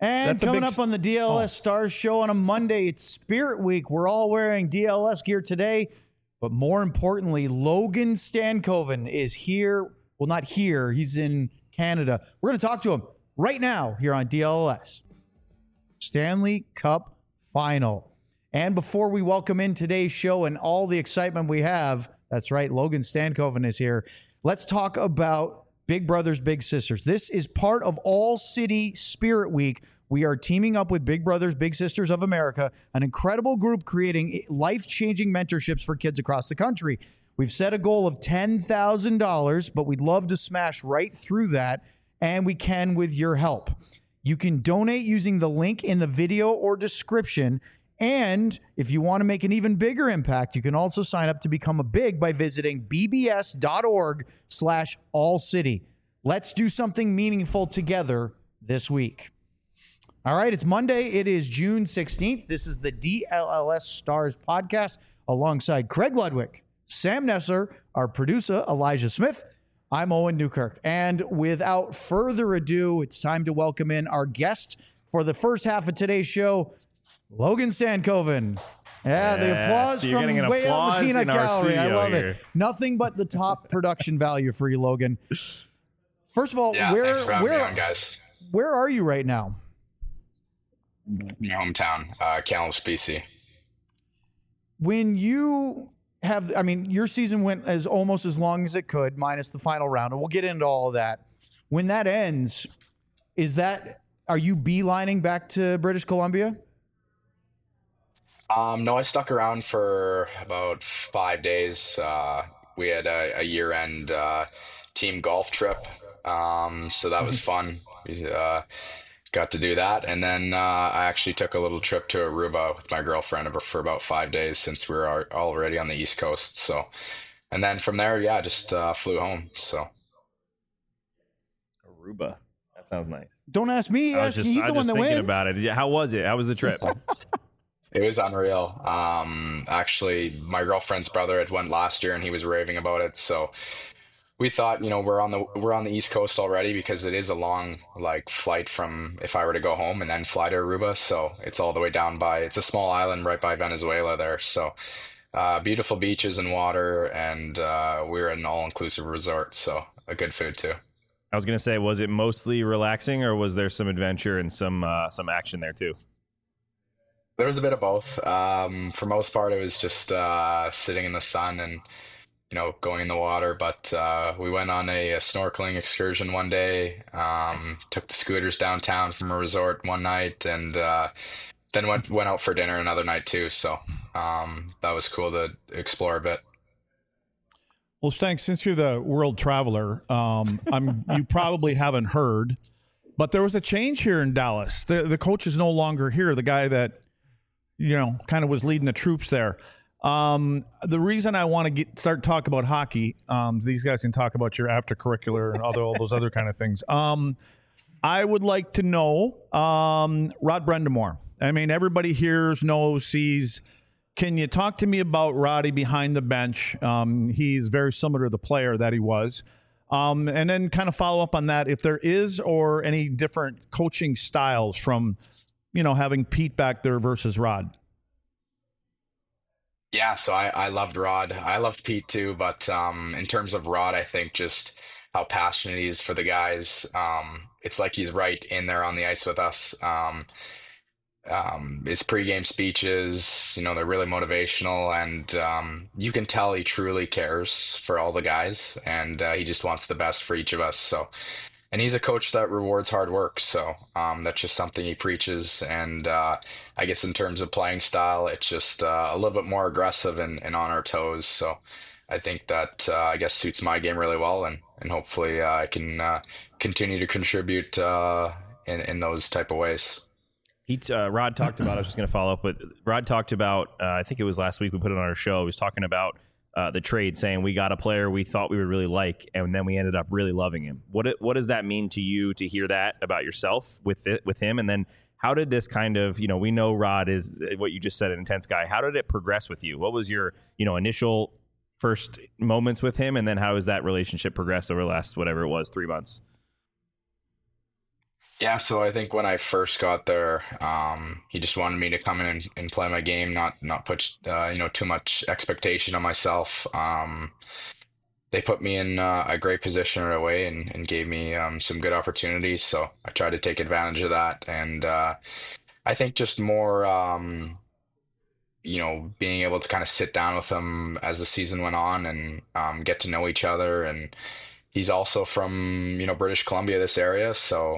And coming up on the DLS Stars show on a Monday, it's Spirit Week. We're all wearing DLS gear today. But more importantly, Logan Stankoven is here. Well, not here. He's in Canada. We're going to talk to him right now here on DLS. Stanley Cup Final. And before we welcome in today's show and all the excitement we have, that's right, Logan Stankoven is here. Let's talk about Big Brothers Big Sisters. This is part of All City Spirit Week. We are teaming up with Big Brothers Big Sisters of America, an incredible group creating life-changing mentorships for kids across the country. We've set a goal of $10,000, but we'd love to smash right through that, and we can with your help. You can donate using the link in the video or description, and if you want to make an even bigger impact, you can also sign up to become a big by visiting bbs.org/allcity. Let's do something meaningful together this week. All right, it's Monday. It is June 16th. This is the DLS Stars podcast alongside Craig Ludwig, Sam Nesser, our producer, Elijah Smith. I'm Owen Newkirk. And without further ado, it's time to welcome in our guest for the first half of today's show, Logan Stankoven. Yeah, the applause so from way out in the peanut gallery. I love it. Nothing but the top production value for you, Logan. First of all, thanks for having me on, guys. Where are you right now? My hometown, Kamloops, BC. When you have, your season went as almost as long as it could, minus the final round, and we'll get into all of that. When that ends, are you beelining back to British Columbia? No, I stuck around for about 5 days. We had a year-end team golf trip, so that was fun. We got to do that, and then I actually took a little trip to Aruba with my girlfriend for about 5 days since we were already on the East Coast. So, and then from there, just flew home. So, Aruba, that sounds nice. Don't ask me. He's the one that wins. Thinking about it. How was it? How was the trip? It was unreal. Actually, my girlfriend's brother had went last year, and he was raving about it. So we thought, we're on the East Coast already, because it is a long flight from if I were to go home and then fly to Aruba. So it's all the way down it's a small island right by Venezuela there. So beautiful beaches and water, and we're at an all-inclusive resort. So a good food too. I was gonna say, was it mostly relaxing, or was there some adventure and some action there too? There was a bit of both. For most part, it was just sitting in the sun and going in the water. But we went on a snorkeling excursion one day. Took the scooters downtown from a resort one night, and then went out for dinner another night too. So that was cool to explore a bit. Well, Stank, since you're the world traveler, you probably haven't heard, but there was a change here in Dallas. The coach is no longer here. The guy that kind of was leading the troops there. The reason I want to start talking about hockey, these guys can talk about your after-curricular and all those other kind of things. I would like to know Rod Brind'Amour. Everybody hears, knows, sees. Can you talk to me about Roddy behind the bench? He's very similar to the player that he was. And then kind of follow up on that, if there is or any different coaching styles from having Pete back there versus Rod. Yeah, so I loved Rod. I loved Pete too, but in terms of Rod, I think just how passionate he is for the guys. It's like he's right in there on the ice with us. His pregame speeches, they're really motivational, and you can tell he truly cares for all the guys, and he just wants the best for each of us. So. And he's a coach that rewards hard work, so that's just something he preaches. And I guess in terms of playing style, it's just a little bit more aggressive and on our toes. So I think that suits my game really well, and hopefully I can continue to contribute in those type of ways. Rod talked about, I was just going to follow up, but Rod talked about, I think it was last week we put it on our show, he was talking about the trade, saying we got a player we thought we would really like, and then we ended up really loving him. What does that mean to you to hear that about yourself with him? And then how did this kind of, we know Rod is what you just said, an intense guy. How did it progress with you? What was your, initial first moments with him? And then how has that relationship progressed over the last, whatever it was, 3 months? Yeah, so I think when I first got there, he just wanted me to come in and play my game, not put too much expectation on myself. They put me in a great position right away and gave me some good opportunities. So I tried to take advantage of that, and I think just more being able to kind of sit down with him as the season went on and get to know each other. And he's also from, British Columbia, this area. So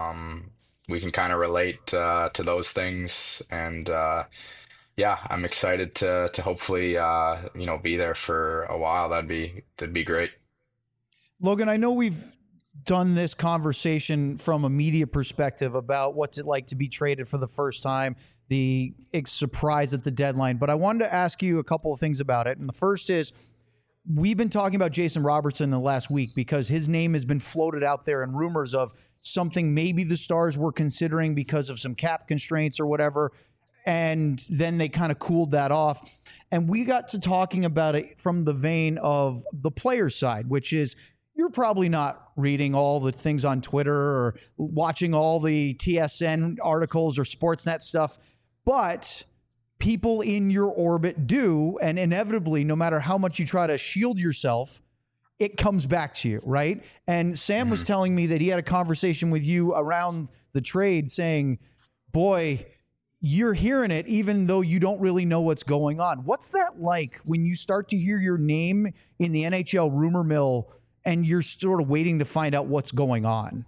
we can kind of relate to those things. And yeah, I'm excited to hopefully, be there for a while. That'd be great. Logan, I know we've done this conversation from a media perspective about what's it like to be traded for the first time, the surprise at the deadline. But I wanted to ask you a couple of things about it. And the first is, we've been talking about Jason Robertson in the last week because his name has been floated out there and rumors of something maybe the Stars were considering because of some cap constraints or whatever. And then they kind of cooled that off. And we got to talking about it from the vein of the player side, which is, you're probably not reading all the things on Twitter or watching all the TSN articles or Sportsnet stuff, but people in your orbit do. And inevitably, no matter how much you try to shield yourself, it comes back to you, right? And Sam was telling me that he had a conversation with you around the trade saying, boy, you're hearing it even though you don't really know what's going on. What's that like when you start to hear your name in the NHL rumor mill and you're sort of waiting to find out what's going on?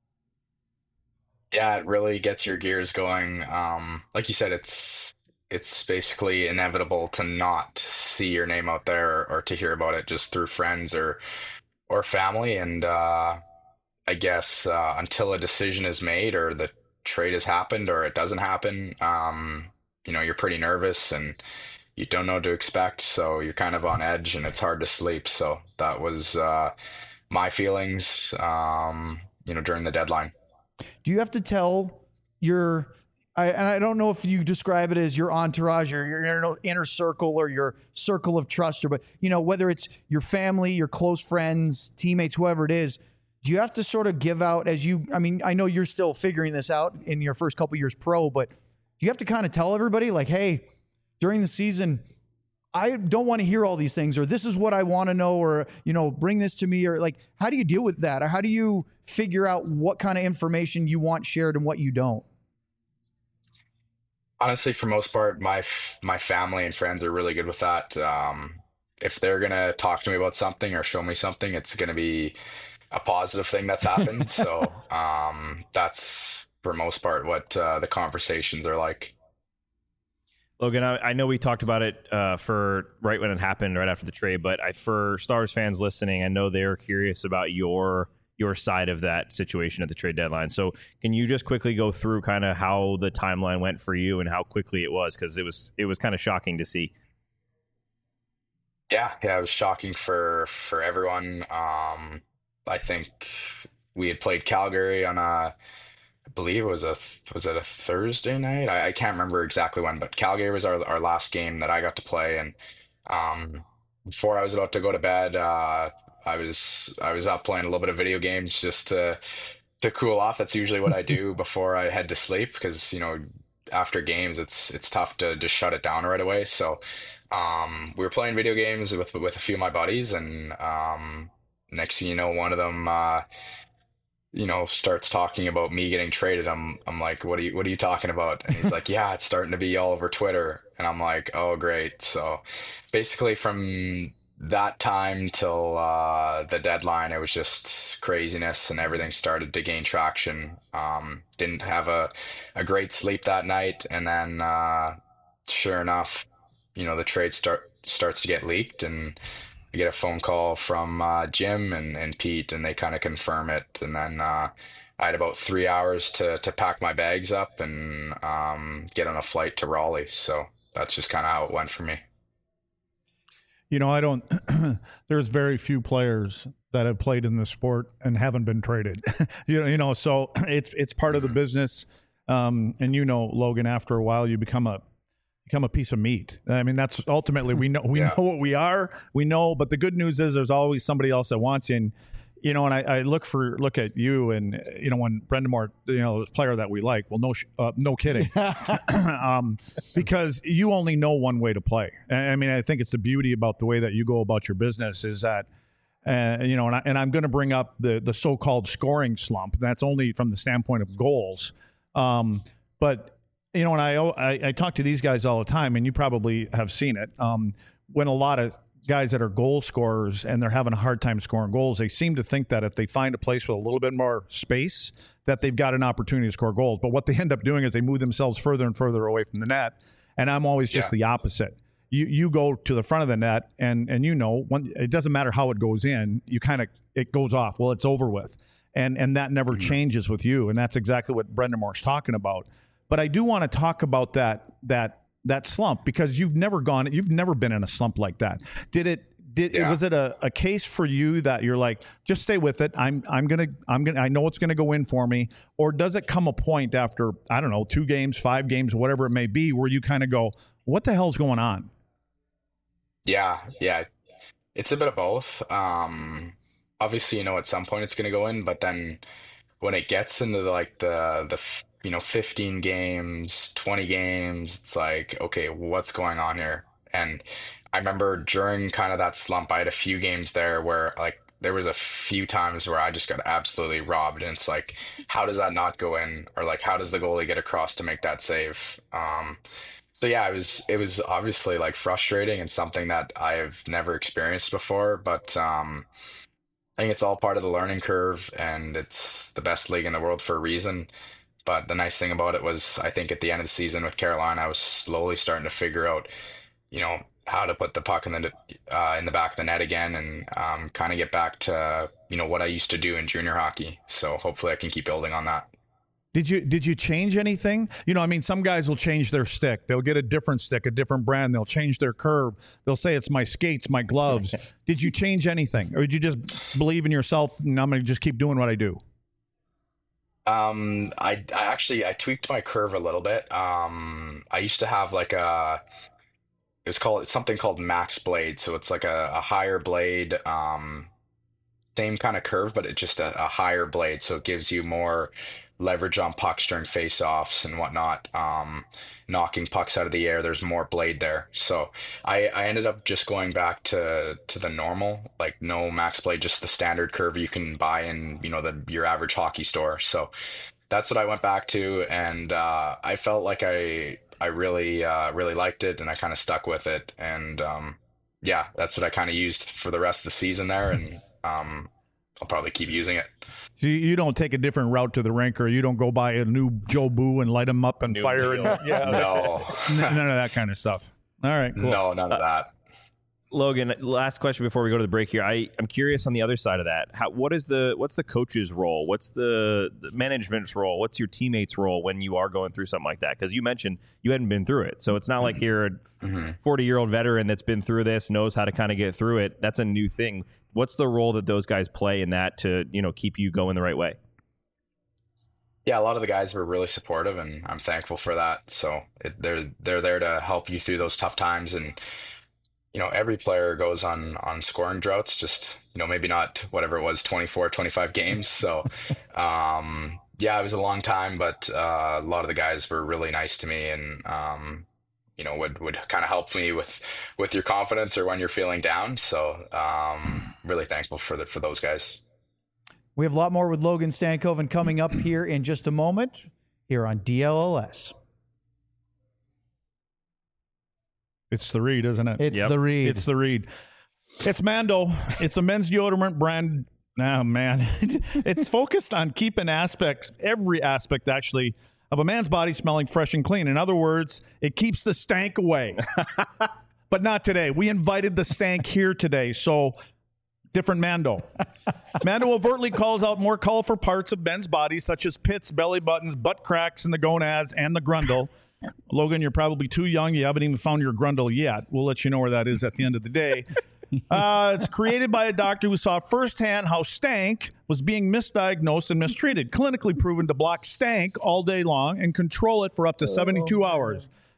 Yeah, it really gets your gears going. Like you said, it's basically inevitable to not see your name out there or to hear about it just through friends or family. And I guess until a decision is made or the trade has happened or it doesn't happen, you're pretty nervous and you don't know what to expect. So you're kind of on edge and it's hard to sleep. So that was my feelings, during the deadline. Do you have to tell and I don't know if you describe it as your entourage or your inner circle or your circle of trust, but whether it's your family, your close friends, teammates, whoever it is, do you have to sort of give out I know you're still figuring this out in your first couple years pro, but do you have to kind of tell everybody like, hey, during the season, I don't want to hear all these things, or this is what I want to know, or, bring this to me, or like, how do you deal with that? Or how do you figure out what kind of information you want shared and what you don't? Honestly, for most part, my family and friends are really good with that. If they're gonna talk to me about something or show me something, it's gonna be a positive thing that's happened. So that's for most part what the conversations are like. Logan, I know we talked about it for right when it happened, right after the trade, but for Stars fans listening, I know they're curious about your side of that situation at the trade deadline. So can you just quickly go through kind of how the timeline went for you and how quickly it was? Because it was kind of shocking to see. Yeah, it was shocking for everyone. I think we had played Calgary on I believe it was was it a Thursday night? I can't remember exactly when, but Calgary was our last game that I got to play. And before I was about to go to bed, I was up playing a little bit of video games just to cool off. That's usually what I do before I head to sleep because after games it's tough to just shut it down right away. So we were playing video games with a few of my buddies, and next thing you know, one of them starts talking about me getting traded. I'm like, what are you talking about? And he's like, yeah, it's starting to be all over Twitter. And I'm like, oh, great. So basically from that time till the deadline, it was just craziness and everything started to gain traction. Didn't have a great sleep that night. And then sure enough, the trade starts to get leaked, and I get a phone call from Jim and Pete, and they kind of confirm it. And then I had about 3 hours to pack my bags up and get on a flight to Raleigh. So that's just kind of how it went for me. I don't, there's very few players that have played in the sport and haven't been traded, so it's part of the business. And Logan, after a while, you become a piece of meat. I mean, that's ultimately, we know know what we are, but the good news is there's always somebody else that wants you. And and I look at you, and when Brendan Moore, the player that we like, well, no kidding, because you only know one way to play. I mean, I think it's the beauty about the way that you go about your business is that, and I'm going to bring up the so-called scoring slump. That's only from the standpoint of goals, but. And I talk to these guys all the time, and you probably have seen it. When a lot of guys that are goal scorers and they're having a hard time scoring goals, they seem to think that if they find a place with a little bit more space, that they've got an opportunity to score goals. But what they end up doing is they move themselves further and further away from the net. And I'm always just the opposite. You go to the front of the net, and it doesn't matter how it goes in. It goes off. Well, it's over with, and that never changes with you. And that's exactly what Brendan Moore's talking about. But I do want to talk about that slump, because you've never been in a slump like that. Was it a case for you that you're like, just stay with it? I know it's gonna go in for me, or does it come a point after, I don't know, 2 games, 5 games, whatever it may be, where you kind of go, what the hell's going on? Yeah. It's a bit of both. Obviously, at some point it's gonna go in, but then when it gets into the 15 games, 20 games, it's like, okay, what's going on here? And I remember during kind of that slump, I had a few games there where there was a few times where I just got absolutely robbed. And it's like, how does that not go in? Or how does the goalie get across to make that save? So yeah, it was obviously frustrating and something that I've never experienced before, but I think it's all part of the learning curve, and it's the best league in the world for a reason. But the nice thing about it was, I think at the end of the season with Carolina, I was slowly starting to figure out, how to put the puck in the back of the net again, and kind of get back to, what I used to do in junior hockey. So hopefully I can keep building on that. Did you change anything? Some guys will change their stick. They'll get a different stick, a different brand. They'll change their curve. They'll say it's my skates, my gloves. Did you change anything? Or did you just believe in yourself and I'm going to just keep doing what I do? I tweaked my curve a little bit. I used to have it's something called max blade. So it's like a higher blade, same kind of curve, but it's just a higher blade. So it gives you more leverage on pucks during face-offs and whatnot, knocking pucks out of the air. There's more blade there. So I ended up just going back to the normal, no max blade, just the standard curve you can buy in, your average hockey store. So that's what I went back to. And I felt like I really liked it, and I kind of stuck with it. And that's what I kind of used for the rest of the season there. And I'll probably keep using it. So you don't take a different route to the rink, or you don't go buy a new Joe Boo and light them up and fire. No. None of that kind of stuff. All right, cool. No, none of that. Logan, last question before we go to the break here. I'm curious on the other side of that. What's the coach's role? What's the management's role? What's your teammates' role when you are going through something like that? Because you mentioned you hadn't been through it. So it's not like you're a 40-year-old veteran that's been through this, knows how to kind of get through it. That's a new thing. What's the role that those guys play in that to, keep you going the right way? Yeah, a lot of the guys were really supportive, and I'm thankful for that. So they're there to help you through those tough times. And every player goes on scoring droughts, just, maybe not whatever it was, 24, 25 games. So, it was a long time, but a lot of the guys were really nice to me, and, would kind of help me with your confidence or when you're feeling down. So, really thankful for those guys. We have a lot more with Logan Stankoven coming up here in just a moment here on DLLS. It's the Reed, isn't it? It's the Reed. It's the Reed. It's Mando. It's a men's deodorant brand. Oh, man. It's focused on keeping every aspect, actually, of a man's body smelling fresh and clean. In other words, it keeps the stank away. But not today. We invited the stank here today, so different Mando. Mando overtly calls out more colorful parts of men's bodies, such as pits, belly buttons, butt cracks, and the gonads, and the grundle. Logan, you're probably too young. You haven't even found your grundle yet. We'll let you know where that is at the end of the day. It's created by a doctor who saw firsthand how stank was being misdiagnosed and mistreated. Clinically proven to block stank all day long and control it for up to 72 hours.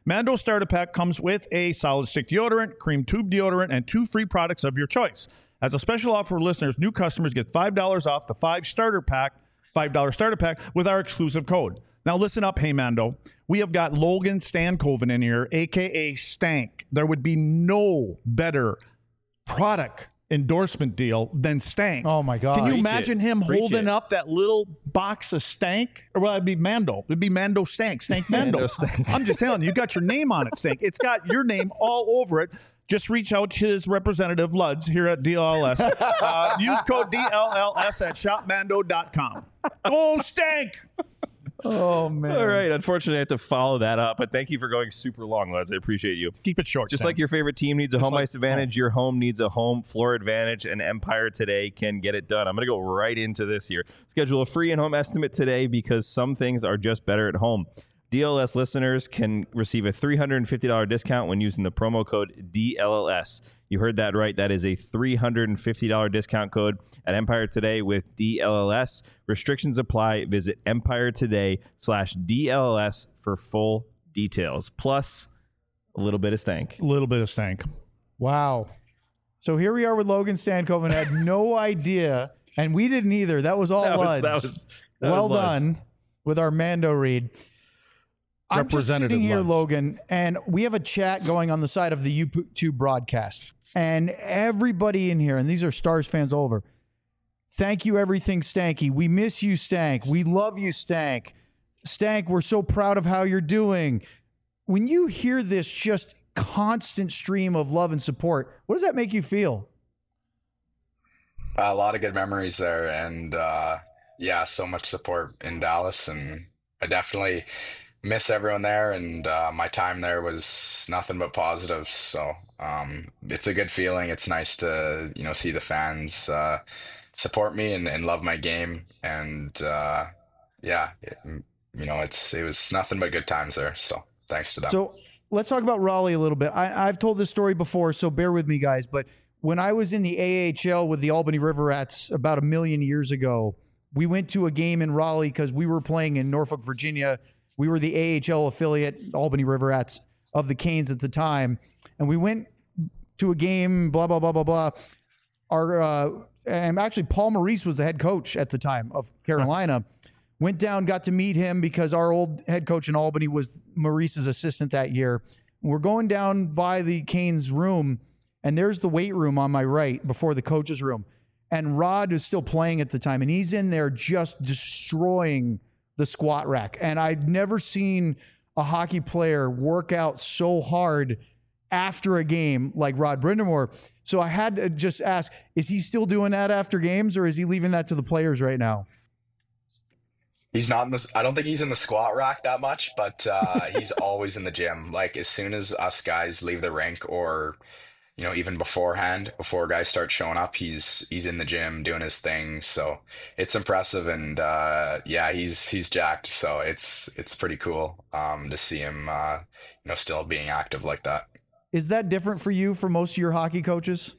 Mando Starter Pack comes with a solid stick deodorant, cream tube deodorant, and 2 free products of your choice. As a special offer for listeners, new customers get $5 off the $5 starter pack with our exclusive code. Now listen up, hey Mando. We have got Logan Stankoven in here, a.k.a. Stank. There would be no better product endorsement deal than Stank. Oh my God. Can you Preach imagine it. him Preach holding it. up that little box of Stank? Or well, it'd be Mando. It'd be Mando Stank. Stank Mando. Mando Stank. I'm just telling you, you got your name on it, Stank. It's got your name all over it. Just reach out to his representative, Luds, here at DLLS. Use code DLLS at shopmando.com. Oh, Stank! Oh man. All right. Unfortunately, I have to follow that up, but thank you for going super long, lads. I appreciate you. Keep it short. Just Stank. like your favorite team needs a home like ice advantage, your home needs a home floor advantage, and Empire Today can get it done. I'm going to go right into this here. Schedule a free in-home estimate today because some things are just better at home. DLS listeners can receive a $350 discount when using the promo code DLLS. You heard that right. That is a $350 discount code at Empire Today with DLLS. Restrictions apply. Visit empiretoday.com/DLLS for full details. Plus, a little bit of stank. A little bit of Stank. Wow. So here we are with Logan Stankoven. Had no idea, and we didn't either. That was all Luds. That Well was Luds. done with our Mando read. I'm just Representative sitting here, Luds. Logan, and we have a chat going on the side of the YouTube broadcast. And everybody in here, and these are Stars fans all over, thank you, everything Stanky. We miss you, Stank. We love you, Stank. Stank, we're so proud of how you're doing. When you hear this just constant stream of love and support, what does that make you feel? A lot of good memories there, and yeah, so much support in Dallas, and I definitely miss everyone there, and my time there was nothing but positives. So it's a good feeling. It's nice to see the fans support me and love my game, and yeah, it was nothing but good times there. So thanks to them. So let's talk about Raleigh a little bit. I've told this story before, so bear with me, guys. But when I was in the AHL with the Albany River Rats about 1 million years ago, we went to a game in Raleigh because we were playing in Norfolk, Virginia. We were the AHL affiliate, Albany River Rats, of the Canes at the time. And we went to a game, blah, blah, blah, blah, blah. And actually, Paul Maurice was the head coach at the time of Carolina. Went down, got to meet him because our old head coach in Albany was Maurice's assistant that year. We're going down by the Canes room, and there's the weight room on my right before the coach's room. And Rod is still playing at the time, and he's in there just destroying the squat rack. And I'd never seen a hockey player work out so hard after a game like Rod Brindamore. So I had to just ask, is he still doing that after games, or is he leaving that to the players right now? He's not in this. I don't think he's in the squat rack that much, but he's always in the gym. Like as soon as us guys leave the rink, or even beforehand, before guys start showing up, he's in the gym doing his thing. So it's impressive, and yeah, he's jacked. So it's pretty cool to see him still being active like that. Is that different for you from most of your hockey coaches?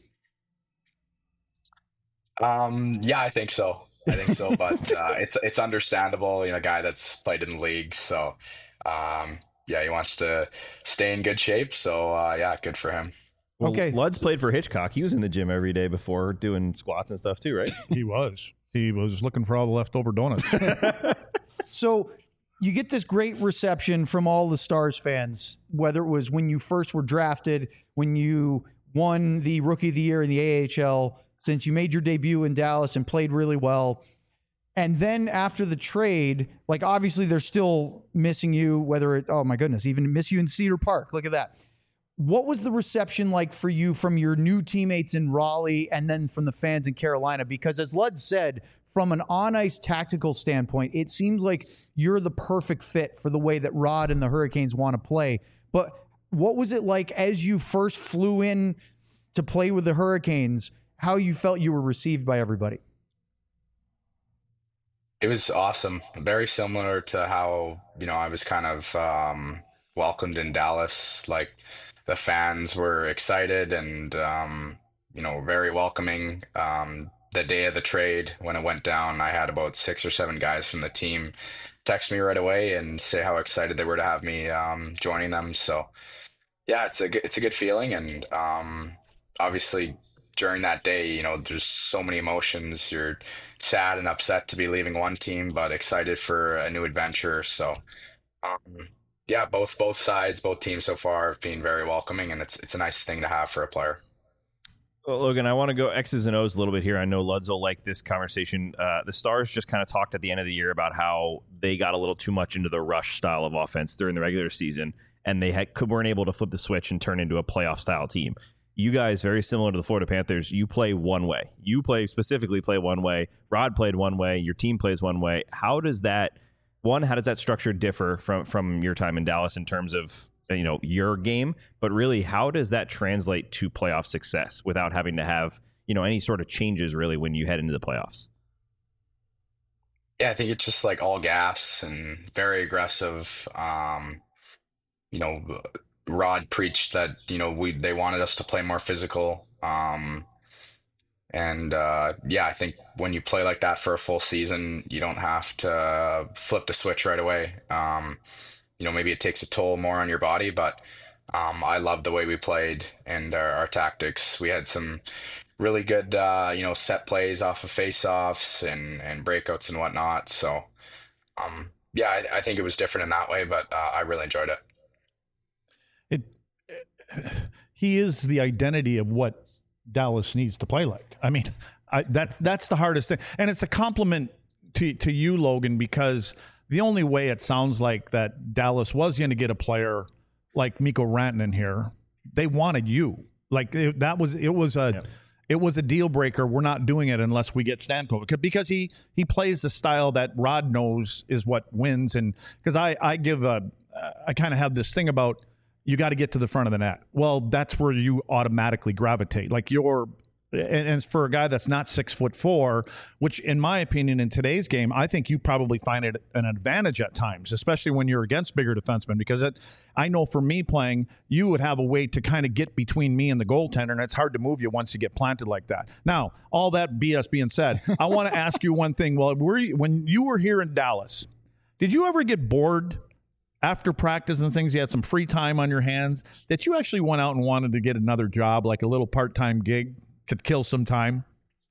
Yeah, I think so. But it's understandable, a guy that's played in the league. So yeah, he wants to stay in good shape. So yeah, good for him. Well, Okay. Luds played for Hitchcock. He was in the gym every day before doing squats and stuff too, right? He was. He was looking for all the leftover donuts. So you get this great reception from all the Stars fans, whether it was when you first were drafted, when you won the Rookie of the Year in the AHL, since you made your debut in Dallas and played really well. And then after the trade, like obviously they're still missing you, whether it, oh my goodness, even miss you in Cedar Park. Look at that. What was the reception like for you from your new teammates in Raleigh and then from the fans in Carolina? Because as Lud said, from an on-ice tactical standpoint, it seems like you're the perfect fit for the way that Rod and the Hurricanes want to play. But what was it like as you first flew in to play with the Hurricanes, how you felt you were received by everybody? It was awesome. Very similar to how, I was kind of welcomed in Dallas. Like the fans were excited and, very welcoming. The day of the trade, when it went down, I had about 6 or 7 guys from the team text me right away and say how excited they were to have me joining them. So yeah, it's a good feeling, and obviously during that day, there's so many emotions. You're sad and upset to be leaving one team, but excited for a new adventure. So yeah, both sides, both teams so far have been very welcoming, and it's a nice thing to have for a player. Well, Logan, I want to go X's and O's a little bit here. I know Luds will like this conversation. The Stars just kind of talked at the end of the year about how they got a little too much into the rush style of offense during the regular season, and they weren't able to flip the switch and turn into a playoff style team. You guys, very similar to the Florida Panthers, you play one way. You specifically play one way. Rod played one way. Your team plays one way. How does that structure differ from your time in Dallas in terms of your game? But really, how does that translate to playoff success without having to have any sort of changes really when you head into the playoffs? Yeah, I think it's just like all gas and very aggressive. Rod preached that they wanted us to play more physical, and yeah, I think when you play like that for a full season, you don't have to flip the switch right away. Maybe it takes a toll more on your body, but I love the way we played and our tactics. We had some really good set plays off of face-offs and breakouts and whatnot. So yeah, I think it was different in that way, but I really enjoyed it. He is the identity of what Dallas needs to play like. I mean, that's the hardest thing, and it's a compliment to you, Logan, because the only way it sounds like that Dallas was going to get a player like Mikko Rantanen here, they wanted you. Like it was a deal breaker. We're not doing it unless we get Stamkos, because he plays the style that Rod knows is what wins. And because I kind of have this thing about, you got to get to the front of the net. Well, that's where you automatically gravitate. Like and for a guy that's not 6'4", which in my opinion in today's game, I think you probably find it an advantage at times, especially when you're against bigger defensemen, because I know for me playing, you would have a way to kind of get between me and the goaltender, and it's hard to move you once you get planted like that. Now, all that BS being said, I want to ask you one thing. Well, when you were here in Dallas, did you ever get bored after practice and things? You had some free time on your hands that you actually went out and wanted to get another job, like a little part-time gig to kill some time?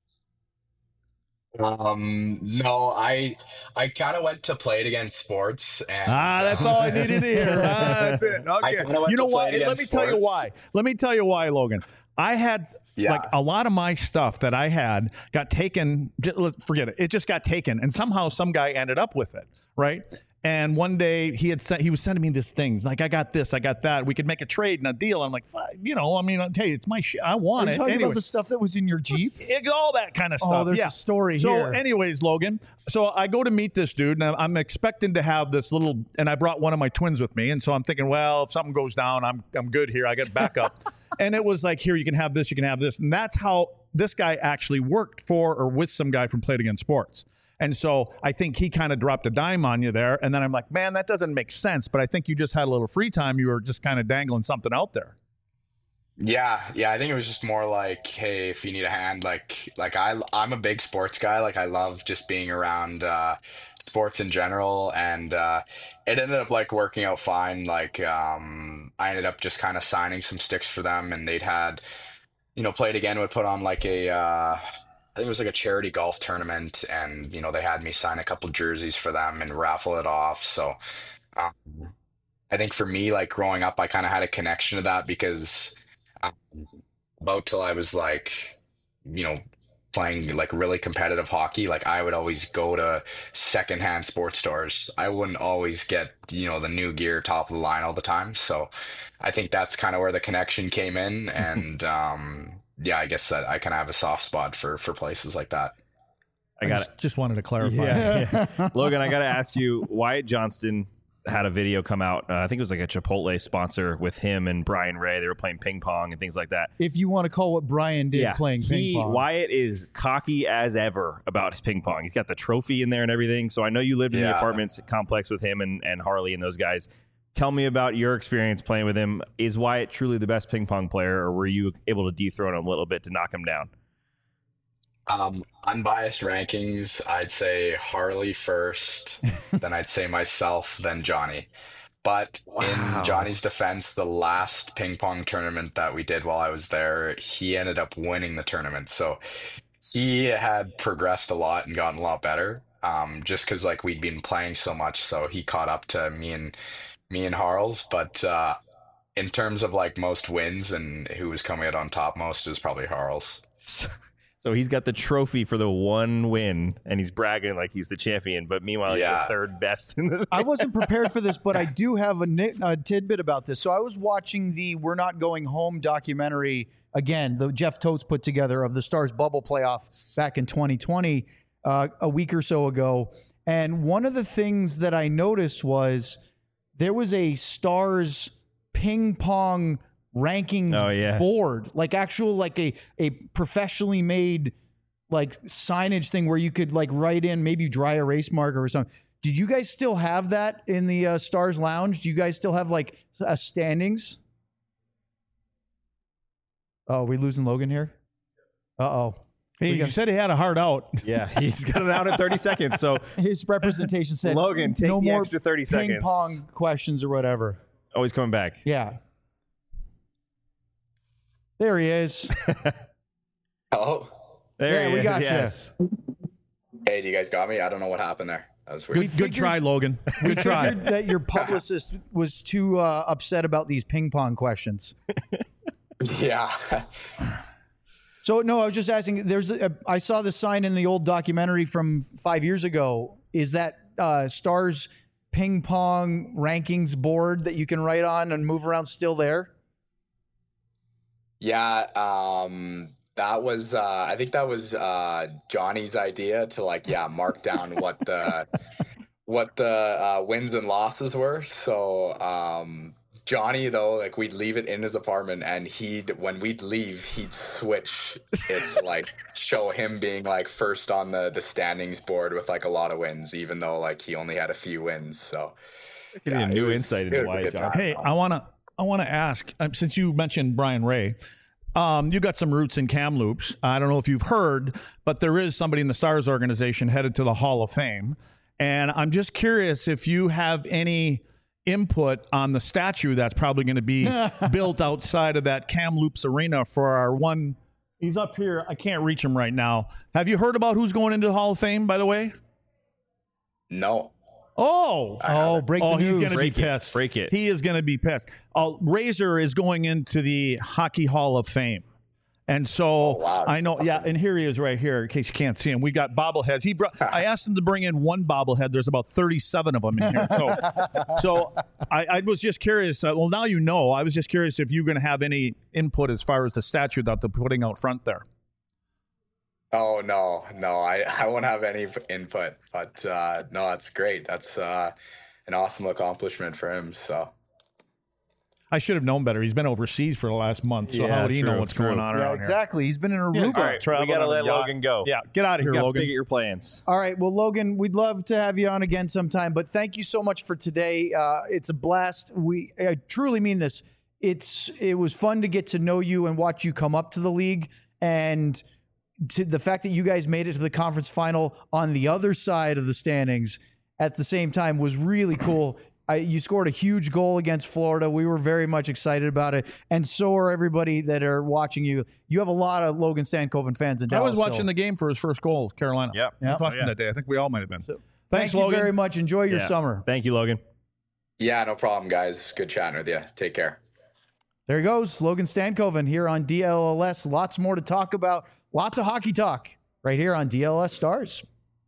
No, I kind of went to Play It Again Sports, and that's all I needed to hear. That's it. Okay. You know what? Let me tell you why. Let me tell you why, Logan. I had like a lot of my stuff that I had got taken. Forget it. It just got taken, and somehow some guy ended up with it, right? And one day he was sending me these things like, I got this, I got that. We could make a trade and a deal. I'm like, hey, it's my shit. I want it. Are you talking about the stuff that was in your Jeep? All that kind of stuff. Oh, there's a story here. So anyways, Logan, so I go to meet this dude, and I'm expecting to have this little, and I brought one of my twins with me. And so I'm thinking, well, if something goes down, I'm good here. I get backup. And it was like, here, you can have this, you can have this. And that's how this guy actually worked for or with some guy from Play It Again Sports. And so I think he kind of dropped a dime on you there. And then I'm like, man, that doesn't make sense. But I think you just had a little free time. You were just kind of dangling something out there. Yeah. I think it was just more like, hey, if you need a hand, like I'm a big sports guy. Like I love just being around sports in general. And it ended up like working out fine. Like I ended up just kind of signing some sticks for them, and they'd had, Play It Again would put on like I think it was like a charity golf tournament, and they had me sign a couple jerseys for them and raffle it off. So I think for me, like growing up, I kind of had a connection to that, because about till I was like, playing like really competitive hockey, like I would always go to secondhand sports stores. I wouldn't always get, the new gear, top of the line all the time. So I think that's kind of where the connection came in. And yeah, I guess that I kind of have a soft spot for places like that. I just wanted to clarify. Yeah. Logan, I got to ask you, Wyatt Johnston had a video come out. I think it was like a Chipotle sponsor with him and Brian Ray. They were playing ping pong and things like that. If you want to call what Brian did playing ping pong. Wyatt is cocky as ever about his ping pong. He's got the trophy in there and everything. So I know you lived in the apartments complex with him and Harley and those guys. Tell me about your experience playing with him. Is Wyatt truly the best ping pong player, or were you able to dethrone him a little bit to knock him down? Unbiased rankings, I'd say Harley first, then I'd say myself, then Johnny. But in Johnny's defense, the last ping pong tournament that we did while I was there, he ended up winning the tournament. So he had progressed a lot and gotten a lot better. Just because like we'd been playing so much, so he caught up to me and Harles. But in terms of like most wins and who was coming out on top most, it was probably Harles. So he's got the trophy for the one win, and he's bragging like he's the champion. But meanwhile, he's the third best in the. I wasn't prepared for this, but I do have a tidbit about this. So I was watching the "We're Not Going Home" documentary again, the Jeff Totes put together of the Stars bubble playoff back in 2020, a week or so ago. And one of the things that I noticed was there was a Stars ping pong rankings board, like actual, like a professionally made like signage thing where you could like write in maybe dry erase marker or something. Did you guys still have that in the Stars Lounge? Do you guys still have like standings? Oh, are we losing Logan here? Uh-oh. Hey, you said he had a hard out. Yeah, he's got it out in 30 seconds. So his representation said, Logan, take no the more extra 30 seconds. ping pong questions or whatever. Oh, he's coming back. Yeah. There he is. Hello? There we got you. Yes. Hey, do you guys got me? I don't know what happened there. That was weird. Good try, Logan. Good try. Figured that your publicist was too upset about these ping pong questions. Yeah. So no, I was just asking. I saw the sign in the old documentary from 5 years ago. Is that Stars ping pong rankings board that you can write on and move around still there? Yeah, that was I think that was Johnny's idea to like mark down what the wins and losses were. So Johnny though, like we'd leave it in his apartment, and when we'd leave, he'd switch it to like show him being like first on the standings board with like a lot of wins, even though like he only had a few wins. So Getting a new insight into why it's on. Hey, I want to ask, since you mentioned Brian Ray, you got some roots in Kamloops. I don't know if you've heard, but there is somebody in the Stars organization headed to the Hall of Fame. And I'm just curious if you have any input on the statue that's probably going to be built outside of that Kamloops arena for our one. He's up here. I can't reach him right now. Have you heard about who's going into the Hall of Fame, by the way? No. Break the news. He's going to be pissed. Break it. He is going to be pissed. Razor is going into the Hockey Hall of Fame. And so I know, awesome. And here he is right here, in case you can't see him. We got bobbleheads. I asked him to bring in one bobblehead. There's about 37 of them in here. So I was just curious. Well, now you know. I was just curious if you're going to have any input as far as the statue that they're putting out front there. Oh, no, I won't have any input, but no, that's great. That's an awesome accomplishment for him. So I should have known better. He's been overseas for the last month, so how would he know what's going on around here? Exactly. He's been in Aruba. All right, we got to let Logan go. Yeah, get out of here, Logan. Big at your plans. All right. Well, Logan, we'd love to have you on again sometime, but thank you so much for today. It's a blast. I truly mean this. It was fun to get to know you and watch you come up to the league, and to the fact that you guys made it to the conference final on the other side of the standings at the same time was really cool. You scored a huge goal against Florida. We were very much excited about it, and so are everybody that are watching you. You have a lot of Logan Stankoven fans in Dallas. I was watching the game for his first goal, Carolina. Yep. I was watching that day. I think we all might have been. So, Thanks, thank you Logan. very much. Enjoy your summer. Thank you, Logan. Yeah, no problem, guys. Good chatting with you. Take care. There he goes, Logan Stankoven here on DLS. Lots more to talk about. Lots of hockey talk right here on DLS Stars.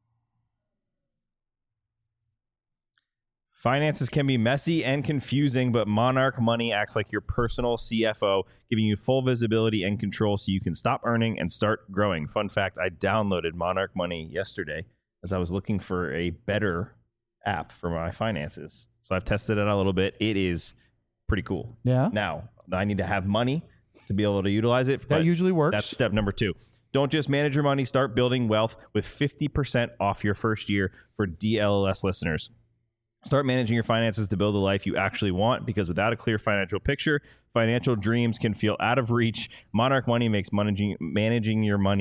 Finances can be messy and confusing, but Monarch Money acts like your personal CFO, giving you full visibility and control so you can stop earning and start growing. Fun fact, I downloaded Monarch Money yesterday as I was looking for a better app for my finances. So I've tested it out a little bit. It is pretty cool. Yeah. Now, I need to have money to be able to utilize it. That usually works. That's step number 2. Don't just manage your money. Start building wealth with 50% off your first year for DLS listeners. Start managing your finances to build the life you actually want, because without a clear financial picture, financial dreams can feel out of reach. Monarch Money makes managing your money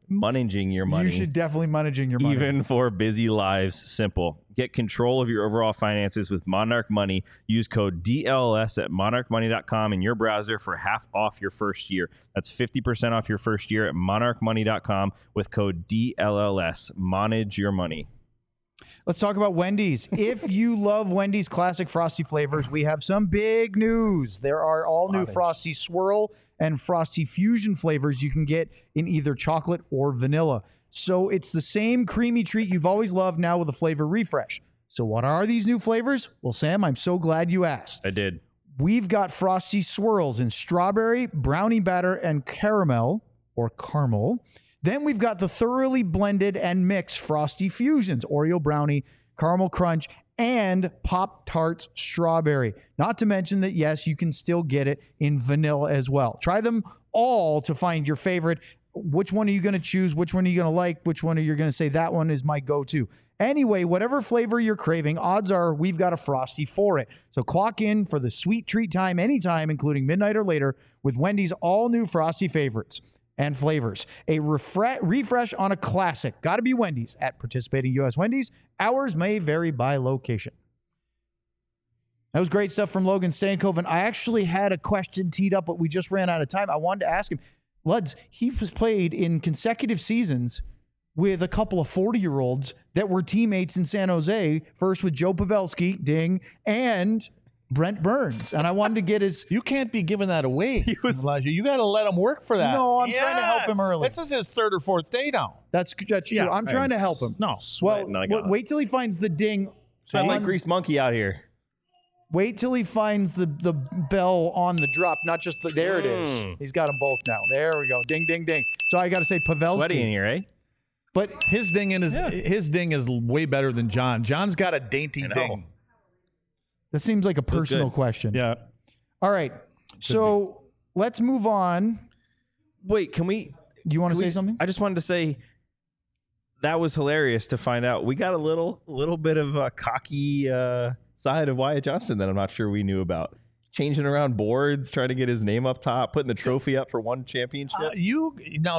managing your money. You should definitely managing your money. Even for busy lives, simple. Get control of your overall finances with Monarch Money. Use code DLS at monarchmoney.com in your browser for half off your first year. That's 50% off your first year at monarchmoney.com with code DLLS. Manage your money. Let's talk about Wendy's. If you love Wendy's classic Frosty flavors, we have some big news. There are all new Frosty Swirl and Frosty Fusion flavors you can get in either chocolate or vanilla. So it's the same creamy treat you've always loved, now with a flavor refresh. So what are these new flavors? Well, Sam, I'm so glad you asked. I did. We've got Frosty Swirls in strawberry, brownie batter, and caramel or caramel. Then we've got the thoroughly blended and mixed Frosty Fusions, Oreo brownie, caramel crunch, and Pop-Tarts strawberry. Not to mention that, yes, you can still get it in vanilla as well. Try them all to find your favorite. Which one are you going to choose? Which one are you going to like? Which one are you going to say, that one is my go-to? Anyway, whatever flavor you're craving, odds are we've got a Frosty for it. So clock in for the sweet treat time anytime, including midnight or later, with Wendy's all-new Frosty favorites and flavors. A refresh on a classic. Got to be Wendy's at participating U.S. Wendy's. Hours may vary by location. That was great stuff from Logan Stankoven. I actually had a question teed up, but we just ran out of time. I wanted to ask him. Luds, he was played in consecutive seasons with a couple of 40-year-olds that were teammates in San Jose, first with Joe Pavelski, ding, and Brent Burns. And I wanted to get his... You can't be giving that away, Elijah. You got to let him work for that. No, I'm trying to help him early. This is his third or fourth day now. That's true. Yeah, I'm trying to help him. No. Well, wait till he finds the ding. Sound like Grease Monkey out here. Wait till he finds the bell on the drop, not just the... There it is. He's got them both now. There we go. Ding, ding, ding. So I got to say Pavelski. Sweaty in here, eh? But his ding is way better than John. John's got a dainty ding. That seems like a personal question. Yeah. All right. So let's move on. Wait, can we... You want to say something? I just wanted to say that was hilarious to find out. We got a little bit of a cocky side of Wyatt Johnston that I'm not sure we knew about. Changing around boards, trying to get his name up top, putting the trophy up for one championship. You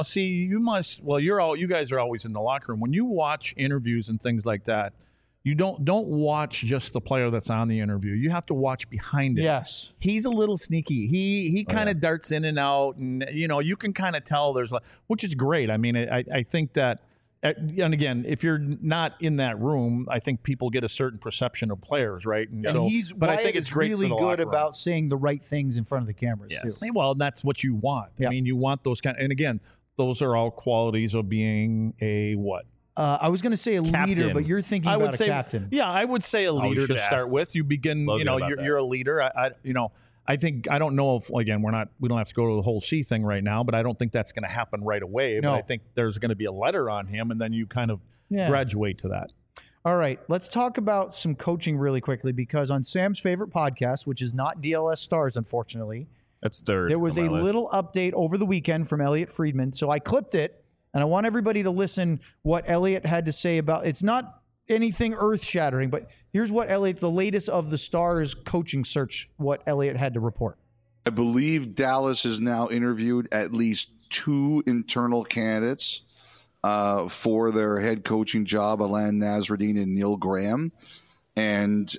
guys are always in the locker room. When you watch interviews and things like that, you don't watch just the player that's on the interview. You have to watch behind it. Yes. He's a little sneaky. He kind of darts in and out, and you can kind of tell which is great. I mean, I think that, and again, if you're not in that room, I think people get a certain perception of players, right? And I think it's great really for the good locker room. about saying the right things in front of the cameras too. Well, that's what you want. Yep. I mean, you want those and again, those are all qualities of being a what? I was going to say a leader, but you're thinking about a captain. Yeah, I would say a leader to start with. You begin, you're a leader. I think, I don't know if, again, we don't have to go to the whole C thing right now, but I don't think that's going to happen right away. No. But I think there's going to be a letter on him, and then you kind of graduate to that. All right, let's talk about some coaching really quickly, because on Sam's favorite podcast, which is not DLS Stars, unfortunately, that's third. There was a little update over the weekend from Elliot Friedman. So I clipped it, and I want everybody to listen what Elliot had to say about it's not anything earth-shattering, but here's what Elliot, the latest of the Stars coaching search, what Elliot had to report. I believe Dallas has now interviewed at least 2 internal candidates for their head coaching job, Alain Nasreddine and Neil Graham. And,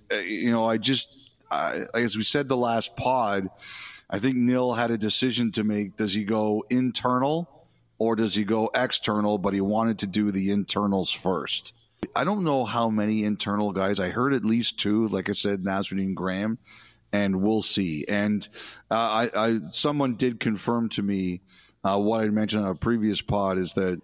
as we said the last pod, I think Neil had a decision to make. Does he go internal or does he go external? But he wanted to do the internals first. I don't know how many internal guys. I heard at least 2, like I said, Nasreddine Graham, and we'll see. And someone did confirm to me what I mentioned on a previous pod is that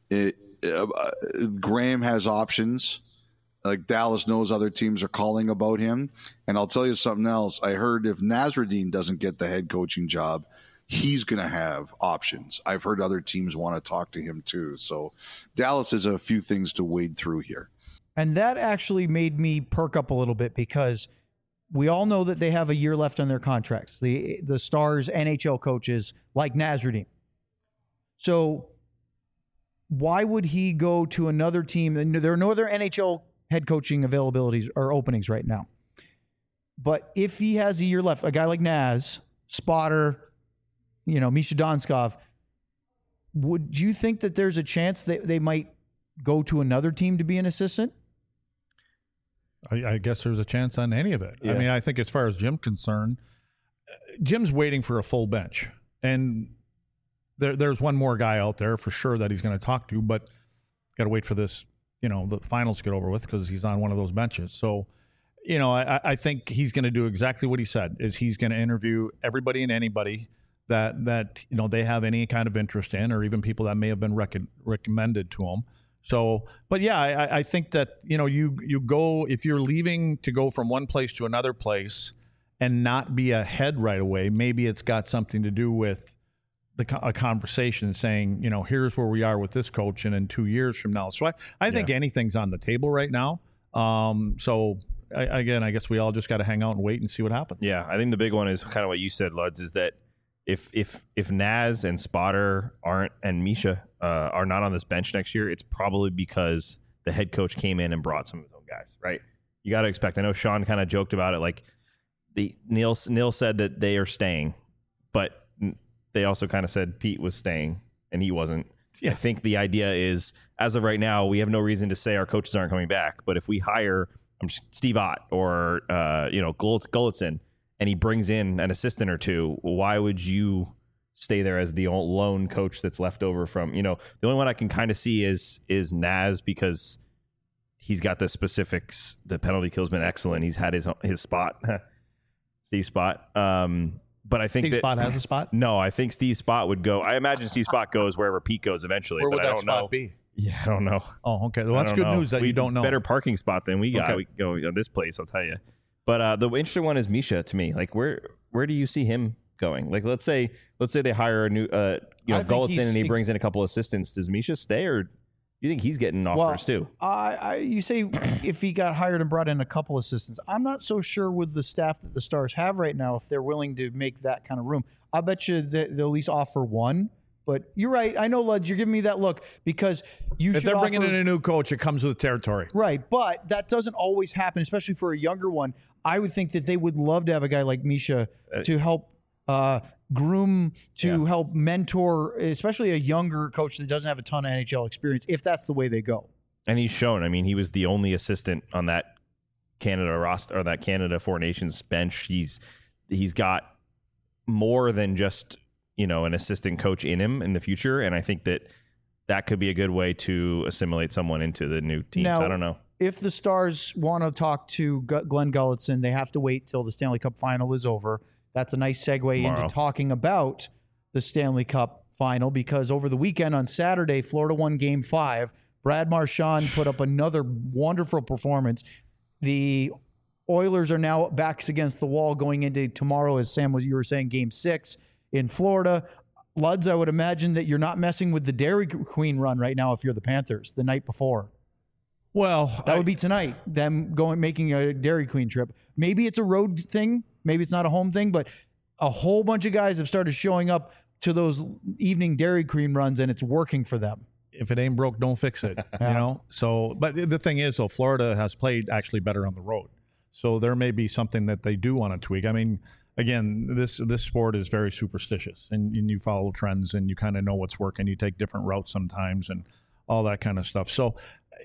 Graham has options. Like Dallas knows other teams are calling about him. And I'll tell you something else. I heard if Nasreddine doesn't get the head coaching job, he's going to have options. I've heard other teams want to talk to him too. So Dallas has a few things to wade through here. And that actually made me perk up a little bit, because we all know that they have a year left on their contracts. The Stars NHL coaches like Nasreddine. So why would he go to another team? There are no other NHL head coaching availabilities or openings right now. But if he has a year left, a guy like Naz, Spotter, Misha Donskov, would you think that there's a chance that they might go to another team to be an assistant? I guess there's a chance on any of it. Yeah. I mean, I think as far as Jim's concerned, Jim's waiting for a full bench. And there's one more guy out there for sure that he's going to talk to, but got to wait for this, the finals to get over with because he's on one of those benches. So, I think he's going to do exactly what he said, is he's going to interview everybody and anybody that they have any kind of interest in, or even people that may have been recommended to him. So, but yeah, I think that, you go, if you're leaving to go from one place to another place and not be ahead right away, maybe it's got something to do with a conversation saying, here's where we are with this coach and in 2 years from now. So I think anything's on the table right now. I guess we all just got to hang out and wait and see what happens. Yeah, I think the big one is kind of what you said, Luds, is that if Naz and Spotter and Misha are not on this bench next year, it's probably because the head coach came in and brought some of his own guys, right? You got to expect. I know Sean kind of joked about it, like Neil said that they are staying, but they also kind of said Pete was staying and he wasn't. Yeah. I think the idea is, as of right now, we have no reason to say our coaches aren't coming back. But if we hire Steve Ott or Gulletson, and he brings in an assistant or two, why would you stay there as the lone coach that's left over from, the only one I can kind of see is Naz, because he's got the specifics. The penalty kill's been excellent. He's had his spot, Steve Spot. But I think Steve Spot has a spot? No, I think Steve Spot would go. I imagine Steve Spot goes wherever Pete goes eventually. Where but would I that don't spot know. be? Yeah, I don't know. Oh, okay. Well, that's good news that you don't know. Better parking spot than we got. Okay. We can go this place, I'll tell you. But the interesting one is Misha to me. Like, where do you see him going? Like, let's say they hire a new Gulletson and he brings in a couple assistants. Does Misha stay, or do you think he's getting offers too? You say if he got hired and brought in a couple assistants. I'm not so sure with the staff that the Stars have right now if they're willing to make that kind of room. I bet you that they'll at least offer one. But you're right. I know, Luds, you're giving me that look because if they're bringing in a new coach, it comes with territory. Right, but that doesn't always happen, especially for a younger one. I would think that they would love to have a guy like Misha to help groom, help mentor, especially a younger coach that doesn't have a ton of NHL experience, if that's the way they go. And he's shown. I mean, he was the only assistant on that Canada roster or that Canada Four Nations bench. He's got more than just an assistant coach in him in the future, and I think that could be a good way to assimilate someone into the new teams. Now, I don't know. If the Stars want to talk to Glenn Gulletson, they have to wait till the Stanley Cup final is over. That's a nice segue into talking about the Stanley Cup final, because over the weekend on Saturday, Florida won Game 5. Brad Marchand put up another wonderful performance. The Oilers are now backs against the wall going into tomorrow, as Sam, you were saying, Game 6 in Florida. Luds, I would imagine that you're not messing with the Dairy Queen run right now if you're the Panthers the night before. Well, that would be tonight, them making a Dairy Queen trip. Maybe it's a road thing. Maybe it's not a home thing, but a whole bunch of guys have started showing up to those evening Dairy Queen runs, and it's working for them. If it ain't broke, don't fix it. So, but the thing is, though, Florida has played actually better on the road. So there may be something that they do want to tweak. I mean, again, this sport is very superstitious, and you follow trends, and you kind of know what's working. You take different routes sometimes, and all that kind of stuff. So,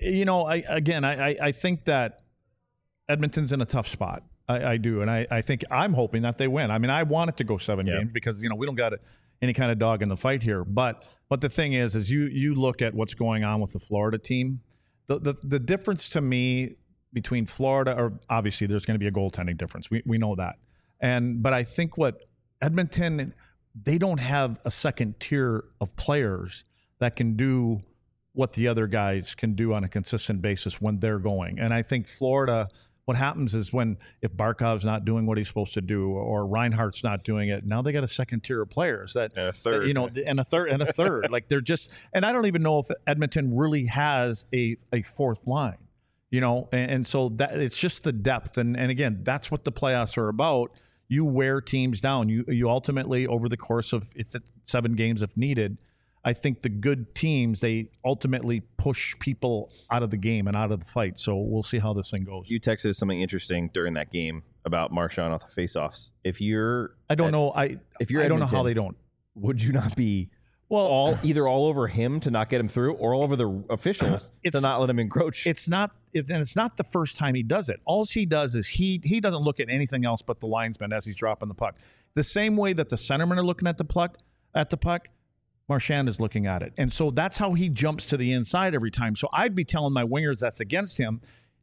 I think that Edmonton's in a tough spot. I do, and I think I'm hoping that they win. I mean, I want it to go 7 games because we don't got any kind of dog in the fight here. But the thing is you look at what's going on with the Florida team. The difference to me between Florida, or obviously there's going to be a goaltending difference. We know that. But I think what Edmonton, they don't have a second tier of players that can do what the other guys can do on a consistent basis when they're going. And I think Florida, what happens is if Barkov's not doing what he's supposed to do, or Reinhardt's not doing it, now they got a second tier of players and a third. Like they're just, and I don't even know if Edmonton really has a fourth line, and so that it's just the depth. And again, that's what the playoffs are about. You wear teams down. You ultimately, over the course of 7 games if needed, I think the good teams, they ultimately push people out of the game and out of the fight. So we'll see how this thing goes. You texted something interesting during that game about Marchand off the faceoffs. I don't know how they don't. Would you not be Well, either all over him to not get him through, or all over the officials to not let him encroach. It's not the first time he does it. All he does is he doesn't look at anything else but the linesman as he's dropping the puck. The same way that the centermen are looking at the puck, Marchand is looking at it. And so that's how he jumps to the inside every time. So I'd be telling my wingers that's against him.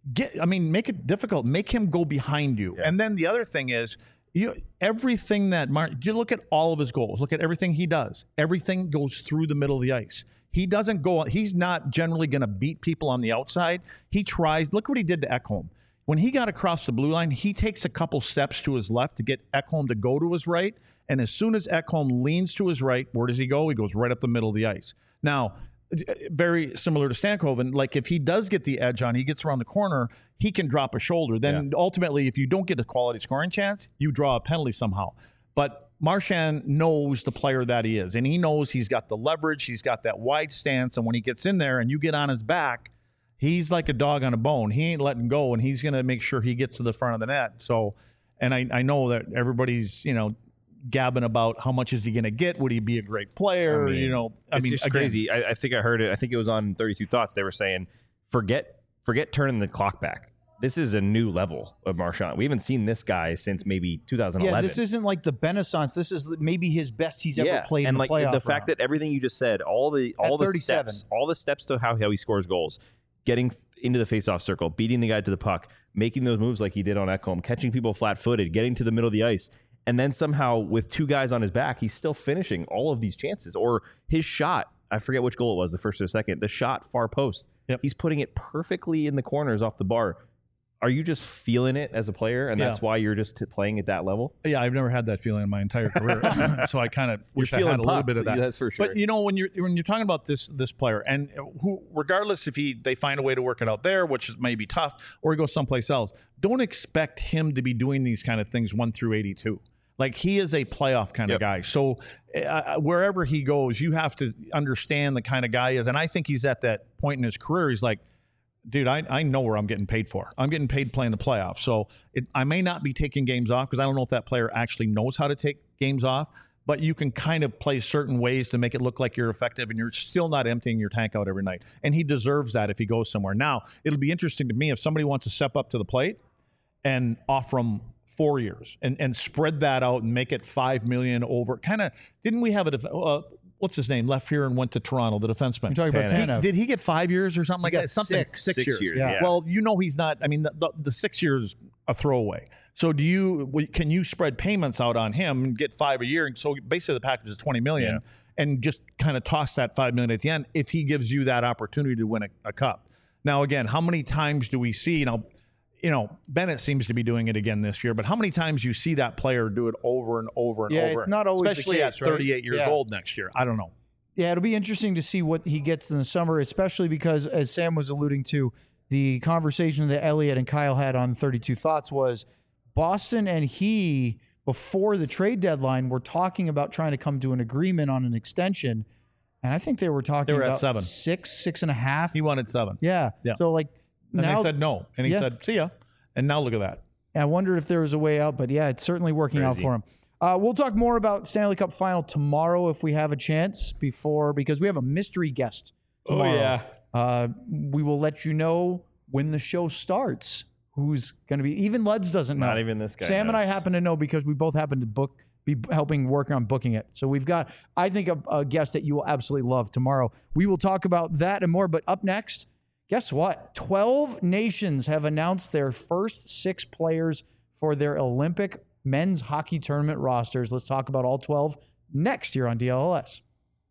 Make it difficult. Make him go behind you. Yeah. And then the other thing is, everything that you look at all of his goals, look at everything he does. Everything goes through the middle of the ice. He doesn't go. He's not generally going to beat people on the outside. He tries. Look what he did to Ekholm. When he got across the blue line, he takes a couple steps to his left to get Ekholm to go to his right. And as soon as Ekholm leans to his right, where does he go? He goes right up the middle of the ice. Now, very similar to Stankoven, like if he does get the edge on, he gets around the corner, he can drop a shoulder. Then ultimately, if you don't get a quality scoring chance, you draw a penalty somehow. But Marchand knows the player that he is, and he knows he's got the leverage, he's got that wide stance, and when he gets in there and you get on his back, he's like a dog on a bone. He ain't letting go, and he's going to make sure he gets to the front of the net. So, and I know that everybody's, gabbing about how much is he going to get? Would he be a great player? It's just crazy. I think I heard it. I think it was on 32 Thoughts. They were saying, forget turning the clock back. This is a new level of Marchand. We haven't seen this guy since maybe 2011. Yeah, this isn't like the Renaissance. This is maybe his best he's ever played. And in like the fact that everything you just said, all the steps to how he scores goals, getting into the faceoff circle, beating the guy to the puck, making those moves like he did on Ekholm, catching people flat-footed, getting to the middle of the ice. And then somehow with two guys on his back, he's still finishing all of these chances. Or his shot, I forget which goal it was, the first or the second, the shot far post. Yep. He's putting it perfectly in the corners off the bar. Are you just feeling it as a player, and that's why you're just playing at that level? Yeah, I've never had that feeling in my entire career. So I kind of wish I had a little bit of that. Yeah, that's for sure. But when you're talking about this player, and who, regardless if they find a way to work it out there, which is maybe tough, or he goes someplace else, don't expect him to be doing these kind of things 1 through 82. Like, he is a playoff kind of guy. So wherever he goes, you have to understand the kind of guy he is. And I think he's at that point in his career. He's like, dude, I know where I'm getting paid for. I'm getting paid playing the playoffs. So I may not be taking games off because I don't know if that player actually knows how to take games off. But you can kind of play certain ways to make it look like you're effective, and you're still not emptying your tank out every night. And he deserves that if he goes somewhere. Now, it'll be interesting to me if somebody wants to step up to the plate and offer him 4 years and spread that out and make it $5 million over. Kind of, didn't we have what's his name, left here and went to Toronto, the defenseman? You're talking about Tanev. Did he get 5 years or something like that? Something six years. Yeah. Well, he's not. I mean, the 6 years a throwaway. So can you spread payments out on him and get 5 a year? And so basically the package is $20 million, and just kind of toss that $5 million at the end if he gives you that opportunity to win a cup. Now, again, how many times do we see? Bennett seems to be doing it again this year, but how many times you see that player do it over and over and over? It's not always especially the case, at 38 years old next year. I don't know. Yeah, it'll be interesting to see what he gets in the summer, especially because, as Sam was alluding to, the conversation that Elliot and Kyle had on 32 Thoughts was Boston and he, before the trade deadline, were talking about trying to come to an agreement on an extension. And I think they were talking about at 7. 6.5. He wanted 7. Yeah. So and they said no. And he said, see ya. And now look at that. I wondered if there was a way out, but yeah, it's certainly working out for him. We'll talk more about Stanley Cup Final tomorrow if we have a chance because we have a mystery guest tomorrow. Oh, yeah. We will let you know when the show starts. Who's going to be? Even Luds doesn't know. Not even this guy Sam knows. and I happen to know because we both happen to be helping work on booking it. So we've got, I think, a guest that you will absolutely love tomorrow. We will talk about that and more. But up next, guess what? 12 nations have announced their first 6 players for their Olympic men's hockey tournament rosters. Let's talk about all 12 next year on DLS.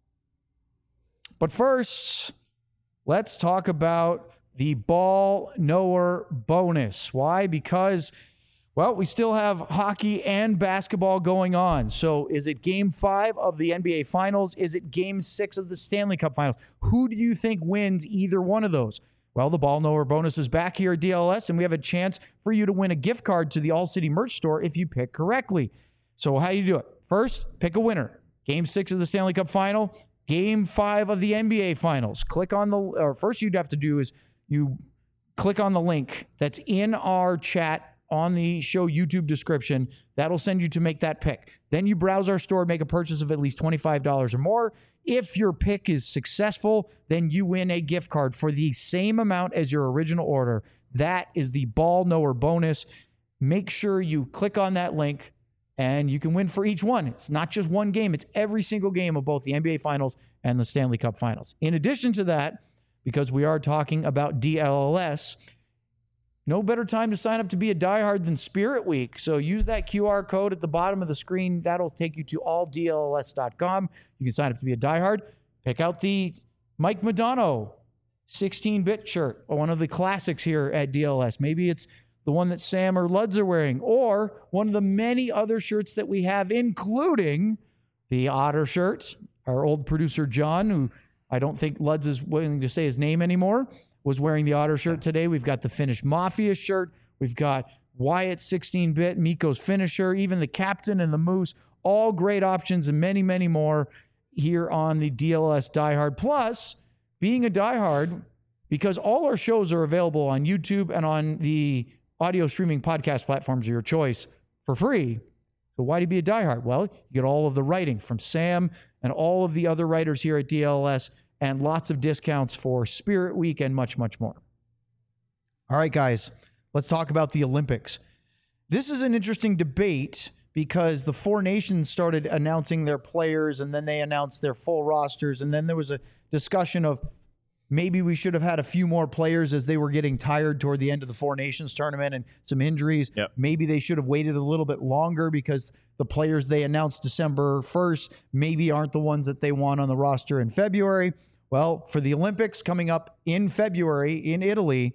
But first, let's talk about the ball knower bonus. Why? Because, we still have hockey and basketball going on. So is it Game 5 of the NBA Finals? Is it Game 6 of the Stanley Cup Finals? Who do you think wins either one of those? Well, the ball knower bonus is back here at DLS, and we have a chance for you to win a gift card to the All City merch store if you pick correctly. So how do you do it? First, pick a winner. Game 6 of the Stanley Cup Final, Game 5 of the NBA Finals. First you'd have to do is you click on the link that's in our chat on the show YouTube description. That'll send you to make that pick. Then you browse our store, make a purchase of at least $25 or more. If your pick is successful, then you win a gift card for the same amount as your original order. That is the ball knower bonus. Make sure you click on that link and you can win for each one. It's not just one game. It's every single game of both the NBA Finals and the Stanley Cup Finals. In addition to that, because we are talking about DLLS, no better time to sign up to be a diehard than Spirit Week. So use that QR code at the bottom of the screen. That'll take you to alldlls.com. You can sign up to be a diehard. Pick out the Mike Modano 16-bit shirt, one of the classics here at DLS. Maybe it's the one that Sam or Luds are wearing, or one of the many other shirts that we have, including the Otter shirts. Our old producer, John, who I don't think Luds is willing to say his name anymore, was wearing the Otter shirt today. We've got the Finnish Mafia shirt. We've got Wyatt's 16-bit, Mikko's finisher, even the Captain and the Moose. All great options and many, many more here on the DLS Diehard. Plus, being a diehard, because all our shows are available on YouTube and on the audio streaming podcast platforms of your choice for free. So why do you be a diehard? Well, you get all of the writing from Sam and all of the other writers here at DLS, and lots of discounts for Spirit Week and much, much more. All right, guys, let's talk about the Olympics. This is an interesting debate because the Four Nations started announcing their players, and then they announced their full rosters, and then there was a discussion of maybe we should have had a few more players as they were getting tired toward the end of the Four Nations tournament and some injuries. Yep. Maybe they should have waited a little bit longer because the players they announced December 1st maybe aren't the ones that they want on the roster in February. Well, for the Olympics coming up in February in Italy,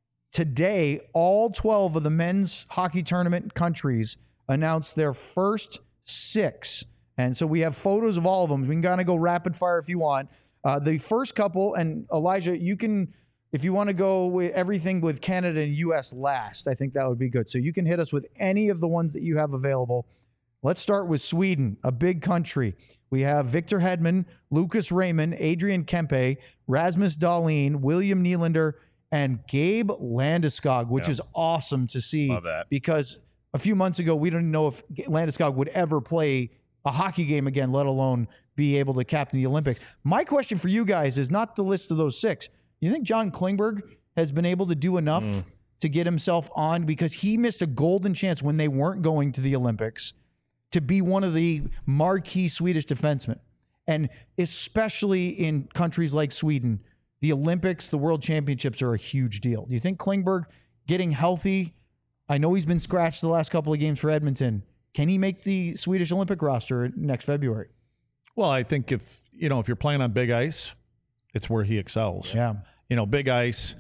today, all 12 of the men's hockey tournament countries announced their first 6. And so we have photos of all of them. We can kind of go rapid fire if you want. The first couple, and Elijah, you can, if you want to go with everything with Canada and U.S. last, I think that would be good. So you can hit us with any of the ones that you have available. Let's start with Sweden, a big country. We have Victor Hedman, Lucas Raymond, Adrian Kempe, Rasmus Dahlin, William Nylander, and Gabe Landeskog, which is awesome to see. Love that. Because a few months ago, we didn't know if Landeskog would ever play a hockey game again, let alone be able to captain the Olympics. My question for you guys is not the list of those 6. You think John Klingberg has been able to do enough to get himself on? Because he missed a golden chance when they weren't going to the Olympics to be one of the marquee Swedish defensemen. And especially in countries like Sweden, the Olympics, the World Championships are a huge deal. Do you think Klingberg getting healthy, I know he's been scratched the last couple of games for Edmonton, can he make the Swedish Olympic roster next February? Well, I think if you're playing on big ice, it's where he excels. Yeah. Big ice,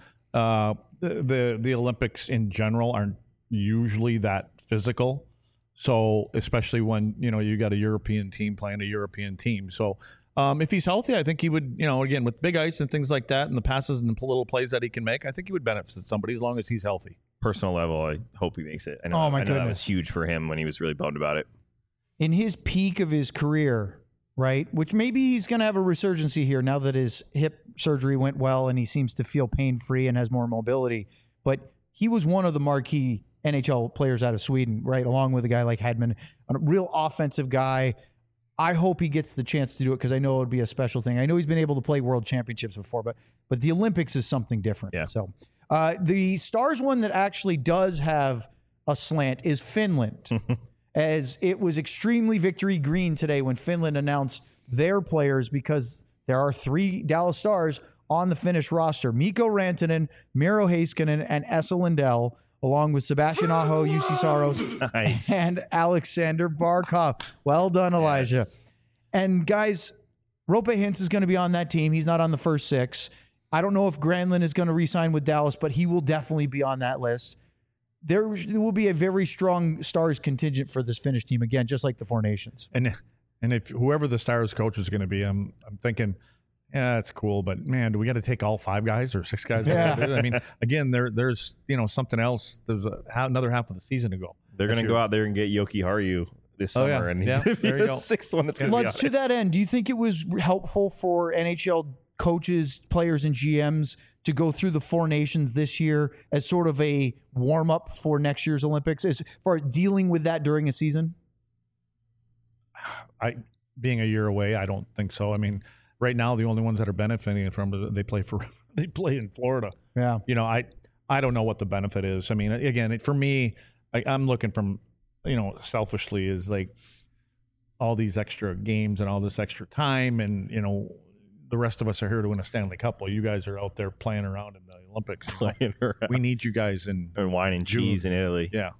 the Olympics in general aren't usually that physical. So especially when, you got a European team playing a European team. So if he's healthy, I think he would, again, with big ice and things like that and the passes and the little plays that he can make, I think he would benefit somebody as long as he's healthy. Personal level, I hope he makes it. I know, Oh, my I know that goodness. was huge for him when he was really bummed about it. In his peak of his career, right, which maybe he's going to have a resurgency here now that his hip surgery went well and he seems to feel pain-free and has more mobility. But he was one of the marquee NHL players out of Sweden, right, along with a guy like Hedman, a real offensive guy. I hope he gets the chance to do it because I know it would be a special thing. I know he's been able to play World Championships before, but the Olympics is something different. Yeah. So the Stars one that actually does have a slant is Finland. As it was extremely victory green today when Finland announced their players because there are 3 Dallas Stars on the Finnish roster. Mikko Rantanen, Miro Heiskanen, and Esa Lindell, along with Sebastian Aho, UC Saros, Nice. and Alexander Barkov. Well done, Elijah. Yes. And guys, Rope Hintz is going to be on that team. He's not on the first 6. I don't know if Granlund is going to re-sign with Dallas, but he will definitely be on that list. There will be a very strong Stars contingent for this Finnish team again, just like the Four Nations. And if whoever the Stars coach is going to be, I'm thinking, yeah, that's cool, but man, do we got to take all 5 guys or 6 guys? Yeah. I mean, again, there's something else. There's another half of the season to go. They're going to go out there and get Yoki Haru this Oh, summer, yeah. and he's Yeah, going to be there you the go. 6th one that's going to be Lutz, on to it. that end, do you think it was helpful for NHL coaches, players, and GMs to go through the Four Nations this year as sort of a warm-up for next year's Olympics, as far as dealing with that during a season? Being a year away, I don't think so. I mean, right now, the only ones that are benefiting from it, they play in Florida. Yeah. You know, I don't know what the benefit is. I mean, again, for me, I'm looking from, selfishly is like all these extra games and all this extra time, and the rest of us are here to win a Stanley Cup while you guys are out there playing around in the Olympics. Playing around. We need you guys and wine and cheese in Italy. Yeah.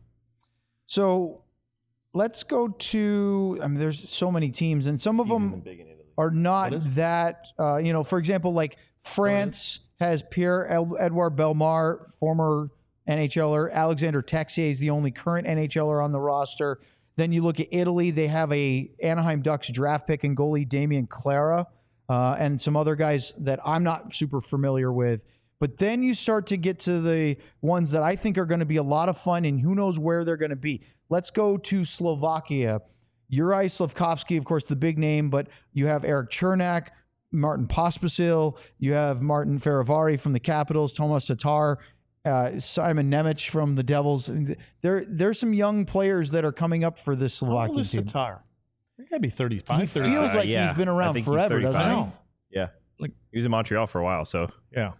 So let's go to, there's so many teams, and some of them are not that, for example, like France has Pierre-Edouard Bellemare, former NHLer. Alexander Texier is the only current NHLer on the roster. Then you look at Italy, they have a Anaheim Ducks draft pick and goalie Damian Clara, and some other guys that I'm not super familiar with. But then you start to get to the ones that I think are going to be a lot of fun, and who knows where they're going to be. Let's go to Slovakia. Juraj Slafkovsky, of course, the big name, but you have Eric Chernak, Martin Pospisil, you have Martin Fehérváry from the Capitals, Tomas Tatar, Simon Nemec from the Devils. There's some young players that are coming up for this Slovakian team. Tatar? He got to be 35. He feels like he's been around forever, doesn't he? Yeah. He was in Montreal for a while, so. Yeah.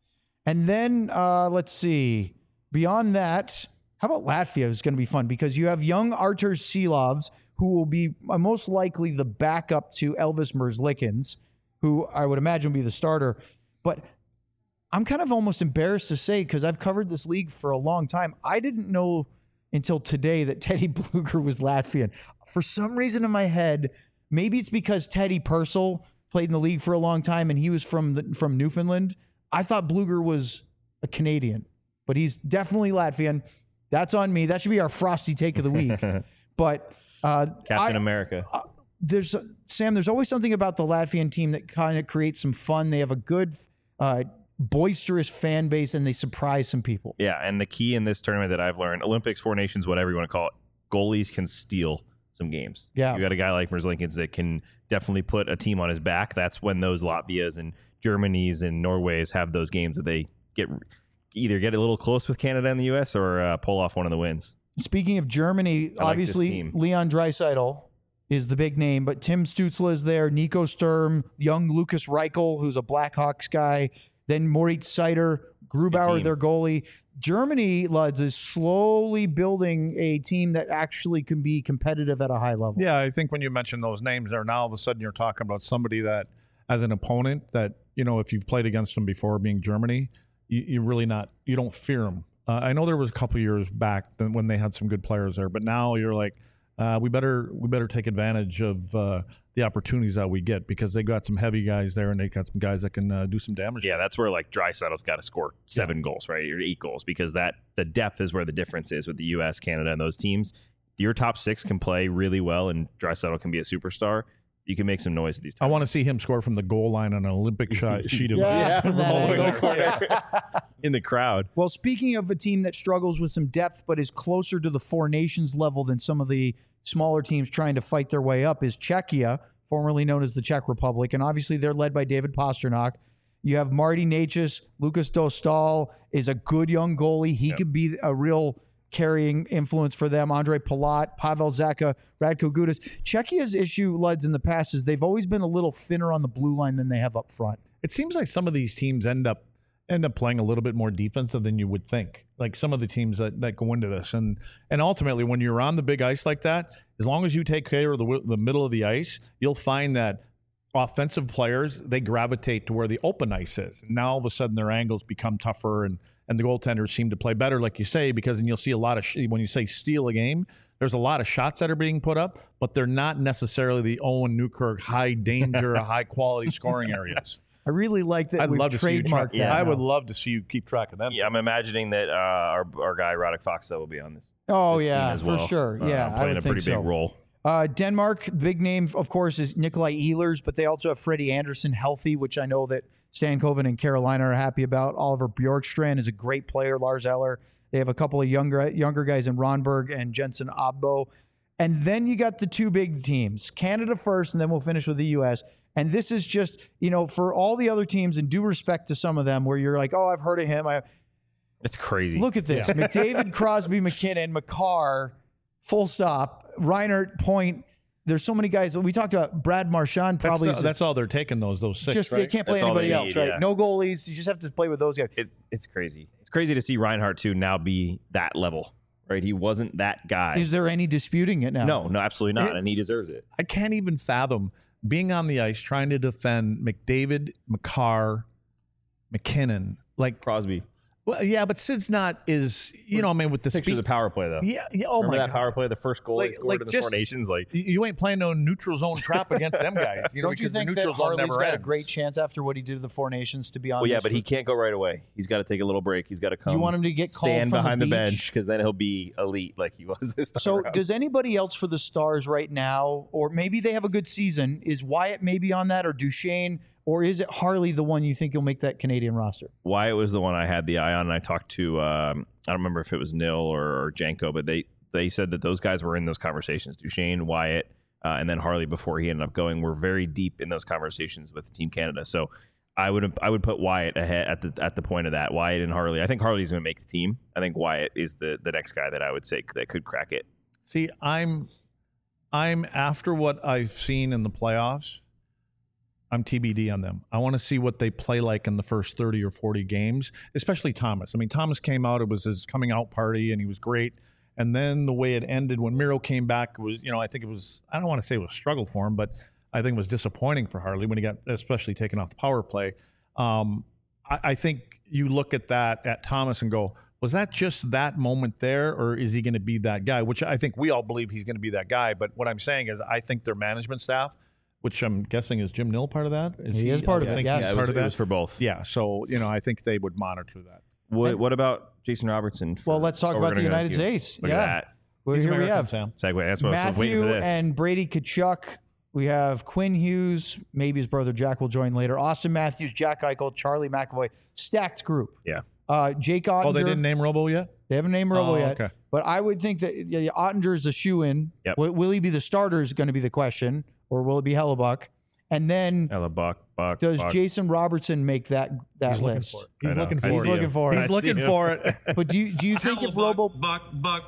And then, let's see. Beyond that, how about Latvia? It's going to be fun because you have young Artur Silovs, who will be most likely the backup to Elvis Merzlikins, who I would imagine will be the starter. But I'm kind of almost embarrassed to say, because I've covered this league for a long time, I didn't know until today that Teddy Bluger was Latvian. For some reason in my head, maybe it's because Teddy Purcell played in the league for a long time and he was from Newfoundland. I thought Bluger was a Canadian, but he's definitely Latvian. That's on me. That should be our frosty take of the week. But Captain America. There's always something about the Latvian team that kind of creates some fun. They have a good, boisterous fan base, and they surprise some people. Yeah, and the key in this tournament that I've learned, Olympics, Four Nations, whatever you want to call it, goalies can steal some games. Yeah. You got a guy like Merzlikins that can definitely put a team on his back. That's when those Latvias and Germanys and Norways have those games that they either get a little close with Canada and the U.S. or pull off one of the wins. Speaking of Germany, obviously Leon Draisaitl is the big name, but Tim Stützle is there, Nico Sturm, young Lucas Reichel, who's a Blackhawks guy, then Moritz Seider, Grubauer, their goalie. Germany, Luds, is slowly building a team that actually can be competitive at a high level. Yeah, I think when you mention those names there, now all of a sudden you're talking about somebody that, as an opponent, that, if you've played against them before, being Germany, you don't fear them. I know there was a couple years back when they had some good players there, but now you're like, we better take advantage of the opportunities that we get, because they got some heavy guys there and they got some guys that can do some damage. Yeah, that's where like Draisaitl's got to score 7 goals, right, or 8 goals, because the depth is where the difference is with the U.S., Canada, and those teams. Your top 6 can play really well, and Draisaitl can be a superstar. You can make some noise at these times. I want to see him score from the goal line on an Olympic sheet of ice. from all the way to the corner. In the crowd. Well, speaking of a team that struggles with some depth but is closer to the Four Nations level than some of the smaller teams trying to fight their way up, is Czechia, formerly known as the Czech Republic. And obviously they're led by David Pastrnak. You have Marty Necas. Lucas Dostal is a good young goalie. He could be a real carrying influence for them. Andre Palat, Pavel Zacha, Radko Gudas. Czechia's issue, Luds, in the past is they've always been a little thinner on the blue line than they have up front. It seems like some of these teams end up playing a little bit more defensive than you would think. Like some of the teams that go into this. And ultimately, when you're on the big ice like that, as long as you take care of the middle of the ice, you'll find that offensive players, they gravitate to where the open ice is. And now all of a sudden their angles become tougher, and the goaltenders seem to play better, like you say, because then you'll see a lot of, when you say steal a game, there's a lot of shots that are being put up, but they're not necessarily the Owen Newkirk high danger, high quality scoring areas. I really like that we've trademarked that. I would love to see you keep track of them. Yeah, I'm imagining that our guy Radek Faksa will be on this. Oh, this yeah, team as well. for sure. Yeah, playing a pretty big role. Denmark, big name, of course, is Nikolai Ehlers, but they also have Freddie Anderson healthy, which I know that Stan Coven and Carolina are happy about. Oliver Bjorkstrand is a great player. Lars Eller. They have a couple of younger guys in Ronberg and Jensen Abbo. And then you got the two big teams, Canada first, and then we'll finish with the U.S. And this is just, for all the other teams, and due respect to some of them where you're like, oh, I've heard of him. It's crazy. Look at this. McDavid, Crosby, McKinnon, Makar, full stop. Reinhart, Point. There's so many guys. We talked about Brad Marchand probably. That's all they're taking, those six, just, right? They can't play That's all anybody they else, need, right? yeah. No goalies. You just have to play with those guys. It's crazy. It's crazy to see Reinhart, too, now be that level, right? He wasn't that guy. Is there any disputing it now? No, absolutely not. And he deserves it. I can't even fathom being on the ice trying to defend McDavid, Makar, McKinnon. Like Crosby. Well, yeah, but Sid's not with the Picture speed. the power play, though. Yeah. Oh, Remember my that God. power play, the first goal he scored in the Four Nations? You ain't playing no neutral zone trap against them guys. Don't you because think the that neutral zone Harley's never got a ends. great chance after what he did to the Four Nations to be on? Well, yeah, this but he can't go right away. He's got to take a little break. He's got to come. You want him to get called stand from behind the the beach? bench because then he'll be elite like he was this time So around. does anybody else for the Stars right now, or maybe they have a good season? Is Wyatt maybe on that, or Duchesne, or is it Harley the one you think will make that Canadian roster? Wyatt was the one I had the eye on, and I talked to I don't remember if it was Nil or Janko, but they said that those guys were in those conversations. Duchesne, Wyatt, and then Harley before he ended up going were very deep in those conversations with Team Canada. So I would put Wyatt ahead at the point of that. Wyatt and Harley. I think Harley's going to make the team. I think Wyatt is the next guy that I would say that could crack it. See, I'm after what I've seen in the playoffs. I'm TBD on them. I want to see what they play like in the first 30 or 40 games, especially Thomas. I mean, Thomas came out, it was his coming out party, and he was great. And then the way it ended when Miro came back was, I think it was, I don't want to say it was struggle for him, but I think it was disappointing for Harley when he got especially taken off the power play. I think you look at that, at Thomas, and go, was that just that moment there, or is he going to be that guy? Which I think we all believe he's going to be that guy. But what I'm saying is I think their management staff, which I'm guessing is Jim Nill part of that? He is part of it, yes. Yeah, it was for both. Yeah, so, I think they would monitor that. What about Jason Robertson? Well, let's talk about the United States. Look at that. Well, He's here we American, have Sam. Segue. That's what I was waiting for Matthew this. and Brady Tkachuk. We have Quinn Hughes. Maybe his brother Jack will join later. Austin Matthews, Jack Eichel, Charlie McAvoy. Stacked group. Yeah. Jake Ottinger. Oh, they didn't name Robo yet? They haven't named Robo yet. Okay. But I would think that Ottinger is a shoe-in. Yep. Will he be the starter is going to be the question, or will it be Hellebuck? And then Buck. does Jason Robertson make that He's list? He's I know. looking I for He's it. see looking him. for it. He's looking for it. But do you think if Robo Buck.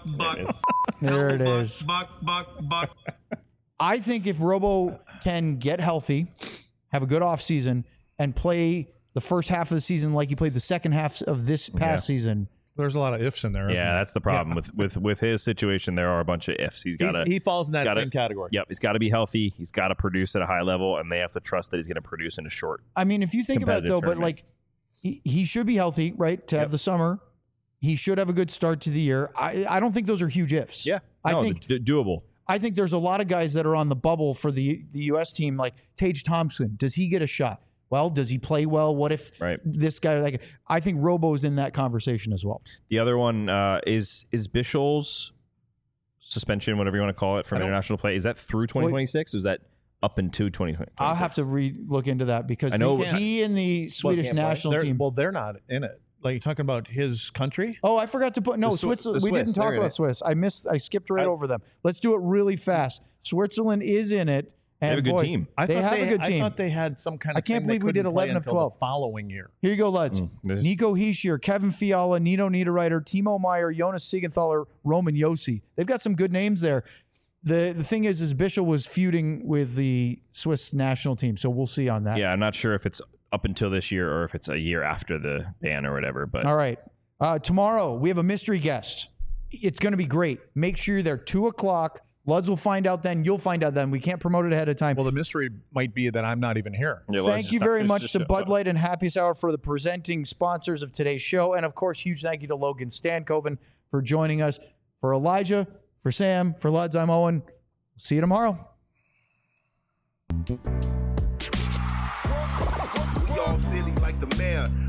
there it is. Buck. I think if Robo can get healthy, have a good offseason, and play the first half of the season like he played the second half of this past season. There's a lot of ifs in there. Isn't Yeah, there? that's the problem with his situation. There are a bunch of ifs. He's got to. He falls in that gotta- same category. Yep, he's got to be healthy. He's got to produce at a high level, and they have to trust that he's going to produce in a short. I mean, if you think about it, though, but Competitive like he should be healthy, right, to have the summer. He should have a good start to the year. I don't think those are huge ifs. I think doable. I think there's a lot of guys that are on the bubble for the U.S. team, like Tage Thompson. Does he get a shot? Well, does he play well? What if this guy? I think Robo's in that conversation as well. The other one is Bischel's suspension, whatever you want to call it, from international play. Is that through 2026? Or is that up into 2026? I'll have to look into that because I know he and the Swedish can't play. national team. Well, they're not in it. Like, you're talking about his country? Oh, I forgot to put The Switzerland. We Swiss, didn't talk they're in about it. Swiss. I skipped right over them. Let's do it really fast. Switzerland is in it. And They have a good team. They have a good I team. thought they had some kind of. I can't thing they believe we did couldn't play 11 of until 12. the following year. Here you go, lads. there's- Nico Hischier, Kevin Fiala, Nino Niederreiter, Timo Meyer, Jonas Siegenthaler, Roman Yossi. They've got some good names there. The thing is Bischel was feuding with the Swiss national team, so we'll see on that. Yeah, I'm not sure if it's up until this year or if it's a year after the ban or whatever. But All right. Tomorrow, we have a mystery guest. It's going to be great. Make sure you're there 2:00. Luds will find out then. You'll find out then. We can't promote it ahead of time. Well, the mystery might be that I'm not even here. Yeah, well, Thank you very much to Bud Light and Happy Hour for the presenting sponsors of today's show. And, of course, huge thank you to Logan Stankoven for joining us. For Elijah, for Sam, for Luds, I'm Owen. See you tomorrow. We all silly like the mayor.